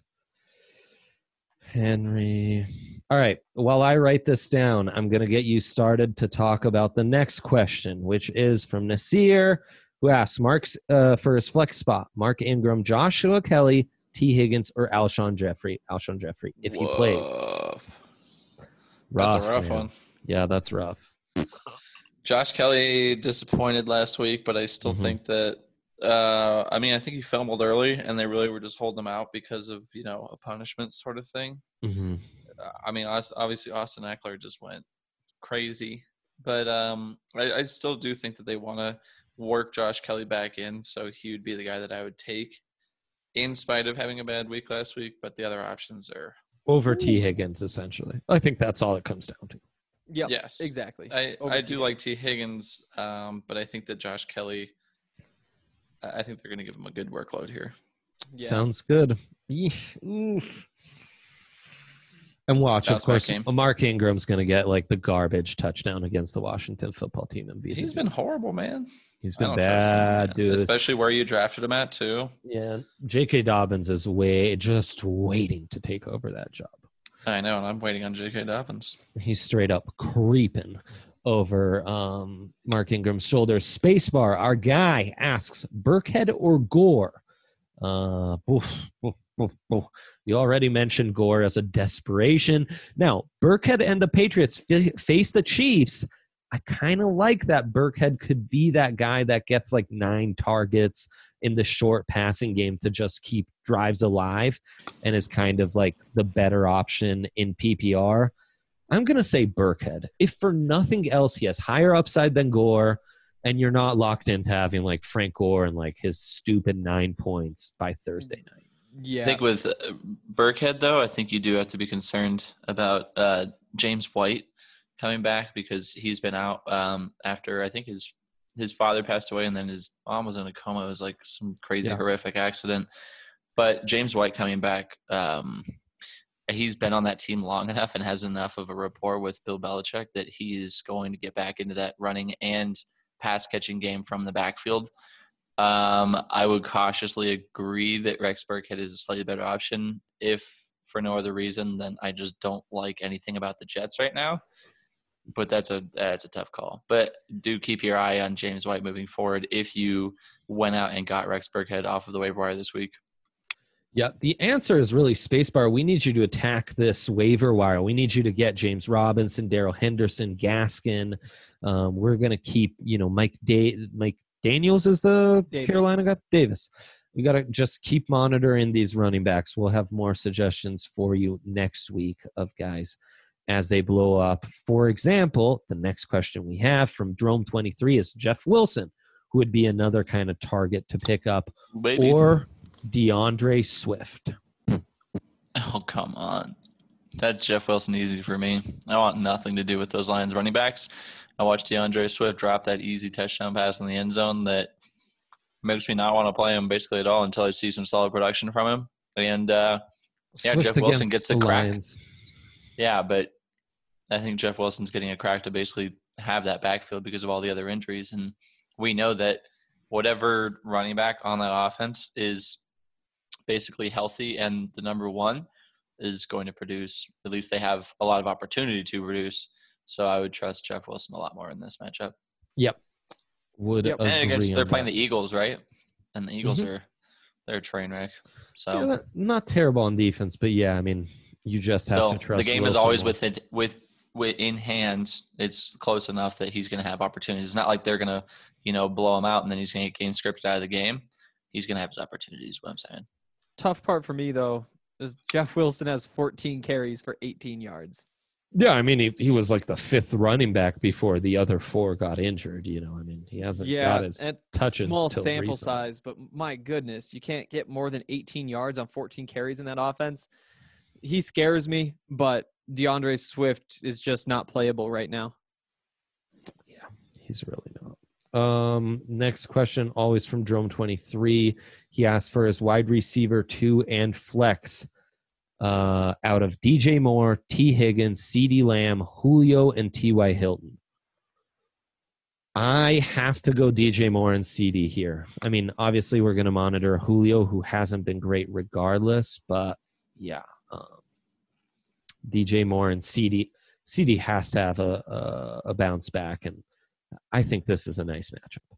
Henry. All right. While I write this down, I'm going to get you started to talk about the next question, which is from Nasir, who asks Mark's for his flex spot: Mark Ingram, Joshua Kelly, T. Higgins, or Alshon Jeffrey. Alshon Jeffrey, if he plays.
That's a rough
man.
one.
Yeah, that's rough.
Josh Kelly disappointed last week, but I still think that I think he fumbled early, and they really were just holding him out because of a punishment sort of thing.
Mm-hmm.
Obviously Austin Eckler just went crazy, but I still do think that they want to work Josh Kelly back in, so he would be the guy that I would take, in spite of having a bad week last week. But the other options are
over T. Higgins, essentially. I think that's all it comes down to.
Yeah.
Yes,
exactly.
I do like T. Higgins, but I think that Josh Kelly. I think they're going to give him a good workload here.
Yeah. Sounds good. And watch, of course, Mark Ingram's going to get like the garbage touchdown against the Washington football team. And
he's been horrible, man.
He's been bad, dude.
Especially where you drafted him at, too.
Yeah. J.K. Dobbins is just waiting to take over that job.
I know, and I'm waiting on J.K. Dobbins.
He's straight up creeping over Mark Ingram's shoulders. Spacebar, our guy, asks, Burkhead or Gore? You already mentioned Gore as a desperation. Now, Burkhead and the Patriots face the Chiefs. I kind of like that Burkhead could be that guy that gets like 9 targets in the short passing game to just keep drives alive and is kind of like the better option in PPR. I'm going to say Burkhead. If for nothing else, he has higher upside than Gore, and you're not locked into having like Frank Gore and like his stupid 9 points by Thursday night.
Yeah.
I think with Burkhead, though, I think you do have to be concerned about James White coming back, because he's been out after I think his father passed away, and then his mom was in a coma. It was like some crazy horrific accident. But James White coming back, he's been on that team long enough and has enough of a rapport with Bill Belichick that he is going to get back into that running and pass catching game from the backfield. I would cautiously agree that Rex Burkhead is a slightly better option, if for no other reason than I just don't like anything about the Jets right now. But that's a tough call. But do keep your eye on James White moving forward if you went out and got Rex Burkhead off of the waiver wire this week.
Yeah, the answer is really Spacebar. We need you to attack this waiver wire. We need you to get James Robinson, Darrell Henderson, Gaskin. We're going to keep, Mike Daniels is the Carolina guy? Davis. We got to just keep monitoring these running backs. We'll have more suggestions for you next week of guys as they blow up. For example, the next question we have from Drome23 is Jeff Wilson, who would be another kind of target to pick up, or DeAndre Swift.
Oh, come on. That's Jeff Wilson easy for me. I want nothing to do with those Lions running backs. I watched DeAndre Swift drop that easy touchdown pass in the end zone that makes me not want to play him basically at all until I see some solid production from him. And, Jeff Wilson gets the crack. Lions. Yeah, but I think Jeff Wilson's getting a crack to basically have that backfield because of all the other injuries. And we know that whatever running back on that offense is basically healthy and the number one is going to produce. At least they have a lot of opportunity to produce. So I would trust Jeff Wilson a lot more in this matchup.
Yep.
And against they're playing the Eagles, right? And the Eagles they're a train wreck. So
not terrible on defense, but you just have to trust.
The game Wilson is always with in hand. It's close enough that he's going to have opportunities. It's not like they're going to blow him out and then he's going to get game scripted out of the game. He's going to have his opportunities. What I'm saying.
Tough part for me though is Jeff Wilson has 14 carries for 18 yards.
Yeah, he was like the 5th running back before the other 4 got injured. He hasn't got his touches.
Small sample
recently.
size, but my goodness, you can't get more than 18 yards on 14 carries in that offense. He scares me, but DeAndre Swift is just not playable right now.
Yeah, he's really not. Next question, always from Drome23. He asked for his wide receiver 2 and flex. Out of DJ Moore, T. Higgins, CeeDee Lamb, Julio, and T.Y. Hilton. I have to go DJ Moore and CD here. Obviously we're going to monitor Julio, who hasn't been great regardless, but yeah, DJ Moore and CD has to have a bounce back, and I think this is a nice matchup.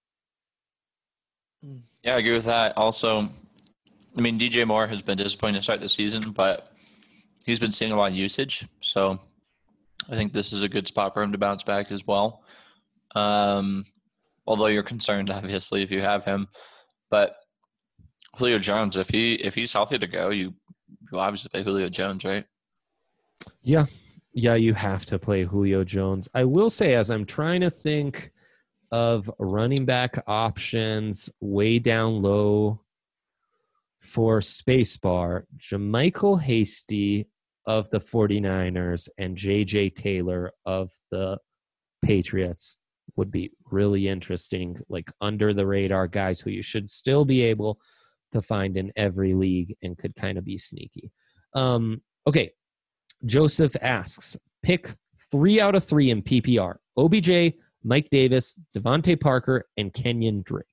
Yeah, I agree with that. Also, DJ Moore has been disappointing to start the season, but he's been seeing a lot of usage. So I think this is a good spot for him to bounce back as well. Although you're concerned, obviously, if you have him. But Julio Jones, if he's healthy to go, you obviously play Julio Jones, right?
Yeah. Yeah, you have to play Julio Jones. I will say, as I'm trying to think of running back options way down low for Spacebar, Jermichael Hasty of the 49ers and J.J. Taylor of the Patriots would be really interesting, like under the radar guys who you should still be able to find in every league and could kind of be sneaky. Okay. Joseph asks, pick 3 out of 3 in PPR. OBJ, Mike Davis, Devontae Parker, and Kenyon Drake.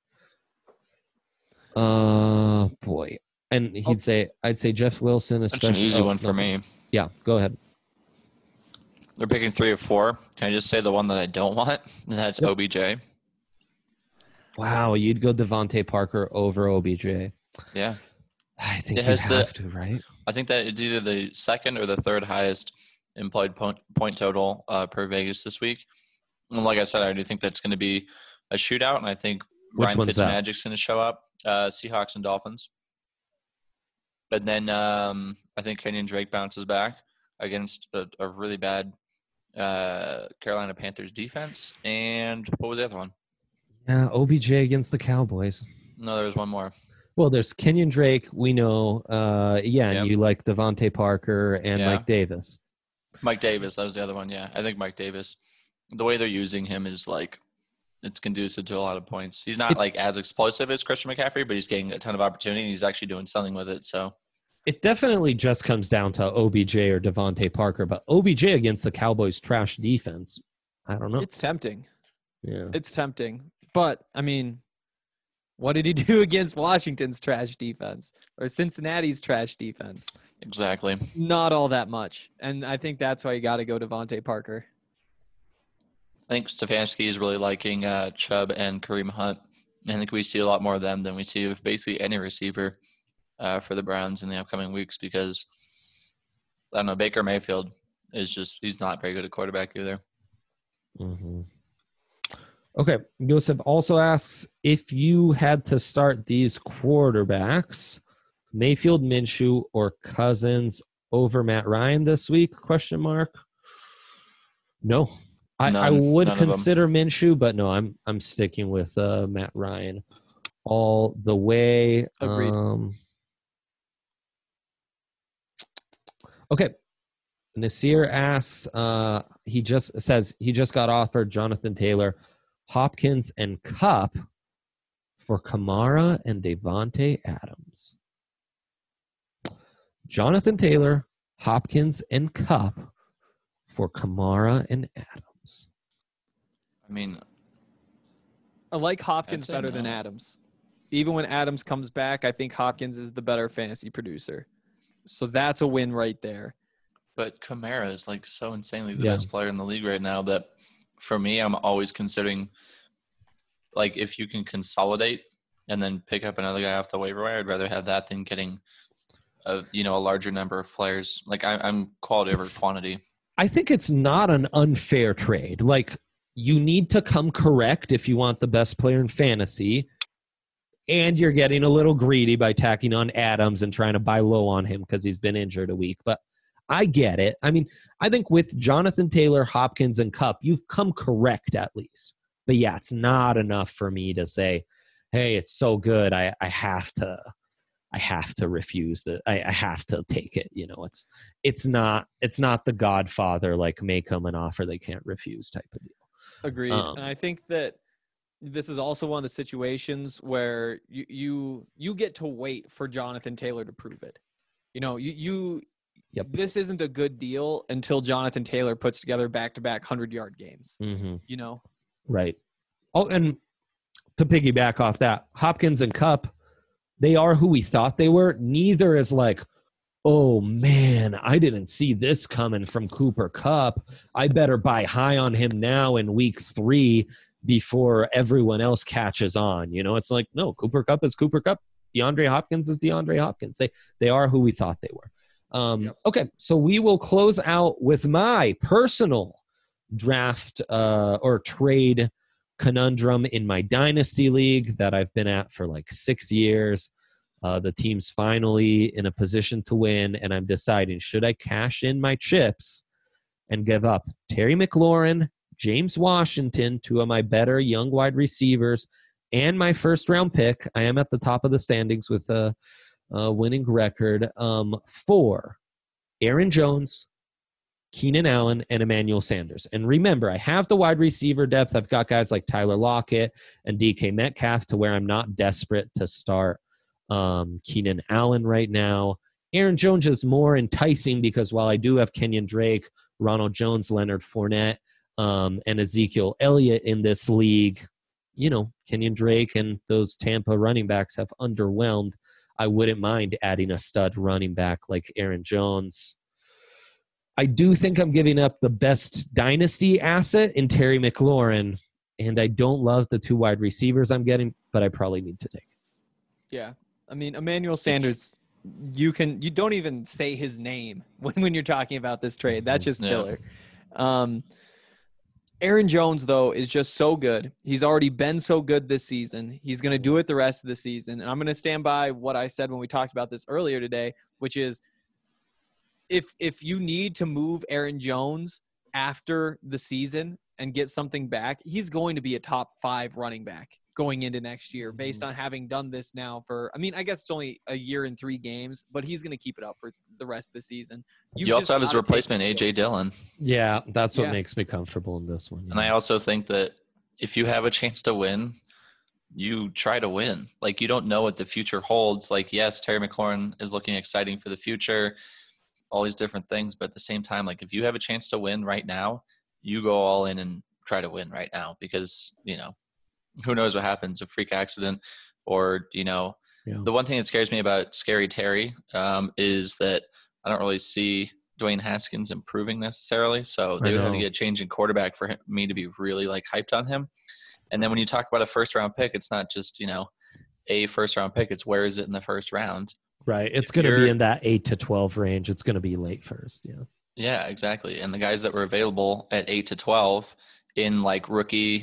Boy. And I'd say Jeff Wilson.
That's an easy one for me.
Yeah, go ahead.
They're picking 3 or 4. Can I just say the one that I don't want? And that's OBJ.
Wow, you'd go Devontae Parker over OBJ.
Yeah.
I think you have to, right?
I think that it's either the second or the third highest implied point total per Vegas this week. And like I said, I do think that's going to be a shootout, and I think Ryan Fitzmagic's going to show up. Seahawks and Dolphins. But then I think Kenyon Drake bounces back against a really bad Carolina Panthers defense. And what was the other one?
Yeah, OBJ against the Cowboys.
No, there was one more.
Well, there's Kenyon Drake, we know. And you like Devontae Parker and Mike Davis.
Mike Davis, that was the other one, yeah. I think Mike Davis. The way they're using him is like it's conducive to a lot of points. He's not like as explosive as Christian McCaffrey, but he's getting a ton of opportunity. And he's actually doing something with it. So
it definitely just comes down to OBJ or Devontae Parker. But OBJ against the Cowboys' trash defense, I don't know.
It's tempting.
Yeah,
it's tempting. But I mean, what did he do against Washington's trash defense or Cincinnati's trash defense?
Exactly.
Not all that much. And I think that's why you got to go Devontae Parker.
I think Stefanski is really liking Chubb and Kareem Hunt. I think we see a lot more of them than we see of basically any receiver for the Browns in the upcoming weeks because, I don't know, Baker Mayfield is he's not very good at quarterback either.
Mm-hmm. Okay. Joseph also asks, if you had to start these quarterbacks, Mayfield, Minshew, or Cousins over Matt Ryan this week? ? No. I would consider Minshew, but no, I'm sticking with Matt Ryan all the way.
Agreed.
Okay. Nasir asks, he just got offered Jonathan Taylor, Hopkins, and Kupp for Kamara and Davante Adams. Jonathan Taylor, Hopkins, and Kupp for Kamara and Adams.
I mean,
I like Hopkins better than Adams. Even when Adams comes back, I think Hopkins is the better fantasy producer. So that's a win right there.
But Kamara is like so insanely the best player in the league right now that for me, I'm always considering like if you can consolidate and then pick up another guy off the waiver wire, I'd rather have that than getting a larger number of players. Like I'm quality over quantity.
I think it's not an unfair trade. Like you need to come correct if you want the best player in fantasy, and you're getting a little greedy by tacking on Adams and trying to buy low on him because he's been injured a week. But I get it. I mean, I think with Jonathan Taylor, Hopkins, and Kupp, you've come correct at least. But yeah, it's not enough for me to say, hey, it's so good. I have to refuse that. I have to take it. It's not the Godfather, like make them an offer they can't refuse type of deal.
Agreed. And I think that this is also one of the situations where you get to wait for Jonathan Taylor to prove it. This isn't a good deal until Jonathan Taylor puts together back-to-back 100-yard games.
Mm-hmm. Right. Oh, and to piggyback off that, Hopkins and Kupp, they are who we thought they were. Neither is like, oh, man, I didn't see this coming from Cooper Kupp. I better buy high on him now in week 3 before everyone else catches on. It's like, no, Cooper Kupp is Cooper Kupp. DeAndre Hopkins is DeAndre Hopkins. They are who we thought they were. Okay, so we will close out with my personal draft or trade conundrum in my dynasty league that I've been at for like 6 years. The team's finally in a position to win, and I'm deciding, should I cash in my chips and give up Terry McLaurin, James Washington, two of my better young wide receivers, and my first-round pick? I am at the top of the standings with a winning record for Aaron Jones, Keenan Allen, and Emmanuel Sanders. And remember, I have the wide receiver depth. I've got guys like Tyler Lockett and DK Metcalf to where I'm not desperate to start Keenan Allen right now. Aaron Jones is more enticing because while I do have Kenyon Drake, Ronald Jones, Leonard Fournette, and Ezekiel Elliott in this league, Kenyon Drake and those Tampa running backs have underwhelmed. I wouldn't mind adding a stud running back like Aaron Jones. I do think I'm giving up the best dynasty asset in Terry McLaurin, and I don't love the two wide receivers I'm getting, but I probably need to take it.
Yeah. I mean, Emmanuel Sanders, you don't even say his name when you're talking about this trade. That's just filler. Aaron Jones, though, is just so good. He's already been so good this season. He's going to do it the rest of the season. And I'm going to stand by what I said when we talked about this earlier today, which is if you need to move Aaron Jones after the season and get something back, he's going to be a top 5 running back going into next year based on having done this now for, I guess it's only a year and 3 games, but he's going to keep it up for the rest of the season.
You also have his replacement, A.J. Dillon.
Yeah, that's what makes me comfortable in this one. Yeah.
And I also think that if you have a chance to win, you try to win. Like, you don't know what the future holds. Like, yes, Terry McLaurin is looking exciting for the future, all these different things. But at the same time, like, if you have a chance to win right now, you go all in and try to win right now because, who knows what happens, a freak accident or, The one thing that scares me about Scary Terry is that I don't really see Dwayne Haskins improving necessarily. So they would have to get a change in quarterback for me to be really hyped on him. And then when you talk about a first round pick, it's not just, a first round pick. It's where is it in the first round?
Right. It's going to be in that 8 to 12 range. It's going to be late first. Yeah.
Yeah, exactly. And the guys that were available at 8 to 12 in rookie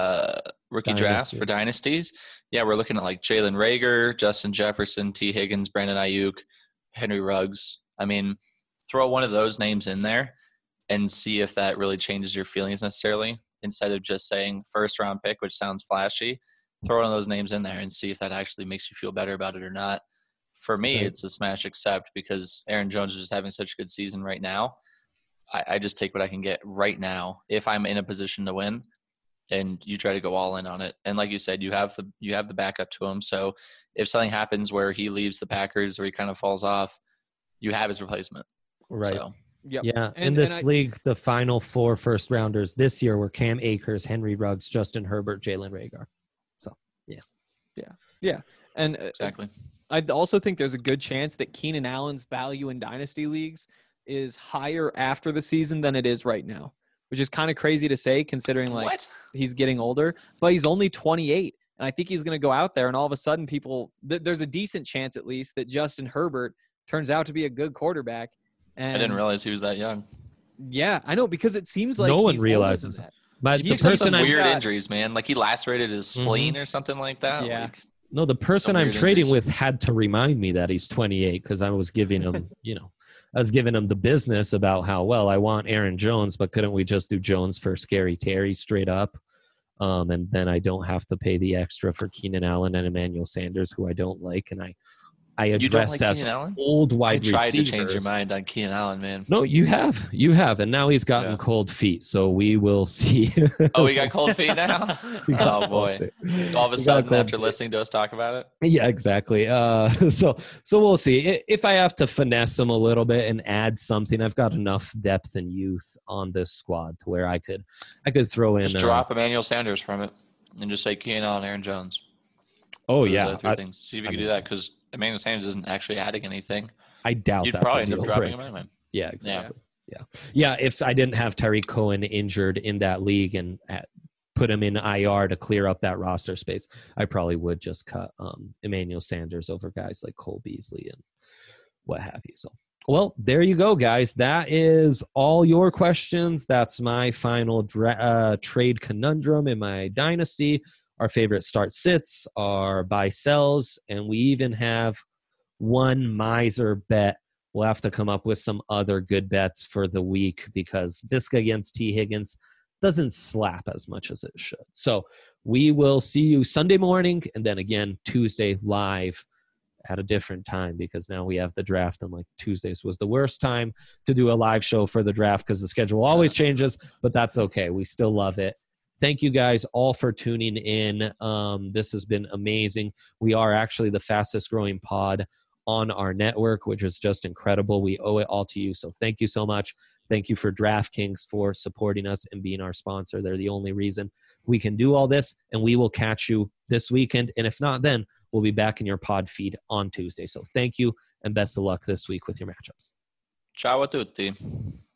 drafts for dynasties. Yeah. We're looking at Jalen Reagor, Justin Jefferson, T. Higgins, Brandon Ayuk, Henry Ruggs. Throw one of those names in there and see if that really changes your feelings necessarily. Instead of just saying first round pick, which sounds flashy, throw one of those names in there and see if that actually makes you feel better about it or not. For me, it's a smash accept because Aaron Jones is just having such a good season right now. I just take what I can get right now if I'm in a position to win, and you try to go all in on it. And like you said, you have the backup to him. So if something happens where he leaves the Packers or he kind of falls off, you have his replacement.
Right.
So.
Yep. Yeah. In this league, the final 4 first rounders this year were Cam Akers, Henry Ruggs, Justin Herbert, Jalen Reagor. So,
yeah. And
exactly.
I also think there's a good chance that Keenan Allen's value in dynasty leagues is higher after the season than it is right now, which is kind of crazy to say considering he's getting older, but he's only 28. And I think he's going to go out there and all of a sudden there's a decent chance at least that Justin Herbert turns out to be a good quarterback. And
I didn't realize he was that young.
Yeah, I know, because it seems like
no one realizes that. But
he had some weird injuries, man. He lacerated his spleen or something like that.
Yeah.
No, the person I'm trading with had to remind me that he's 28 because I was giving him, I was giving him the business about how, I want Aaron Jones, but couldn't we just do Jones for Scary Terry straight up? And then I don't have to pay the extra for Keenan Allen and Emmanuel Sanders, who I don't like. And I addressed as old wide receivers.
I tried to change your mind on Keenan Allen, man.
No, you have, and now he's gotten cold feet. So we will see.
Oh, he got cold feet now. Oh boy! All of a sudden, after listening to us talk about it.
Yeah, exactly. So we'll see if I have to finesse him a little bit and add something. I've got enough depth and youth on this squad to where I could throw in.
Just drop Emmanuel Sanders from it and just say Keenan Allen, Aaron Jones.
Oh yeah,
things. See if you can do that because Emmanuel Sanders isn't actually adding anything.
I doubt
you'd
that's
probably
a deal
end up dropping
breaker.
him anyway.
Yeah, exactly. Yeah. If I didn't have Tariq Cohen injured in that league and put him in IR to clear up that roster space, I probably would just cut Emmanuel Sanders over guys like Cole Beasley and what have you. So Well, there you go, guys. That is all your questions. That's my final trade conundrum in my dynasty. Our favorite start sits, our buy sells, and we even have one miser bet. We'll have to come up with some other good bets for the week because Visca against T. Higgins doesn't slap as much as it should. So we will see you Sunday morning and then again Tuesday live at a different time because now we have the draft and like Tuesdays was the worst time to do a live show for the draft because the schedule always changes, but that's okay. We still love it. Thank you guys all for tuning in. This has been amazing. We are actually the fastest growing pod on our network, which is just incredible. We owe it all to you. So thank you so much. Thank you for DraftKings for supporting us and being our sponsor. They're the only reason we can do all this, and we will catch you this weekend. And if not, then we'll be back in your pod feed on Tuesday. So thank you and best of luck this week with your matchups.
Ciao a tutti.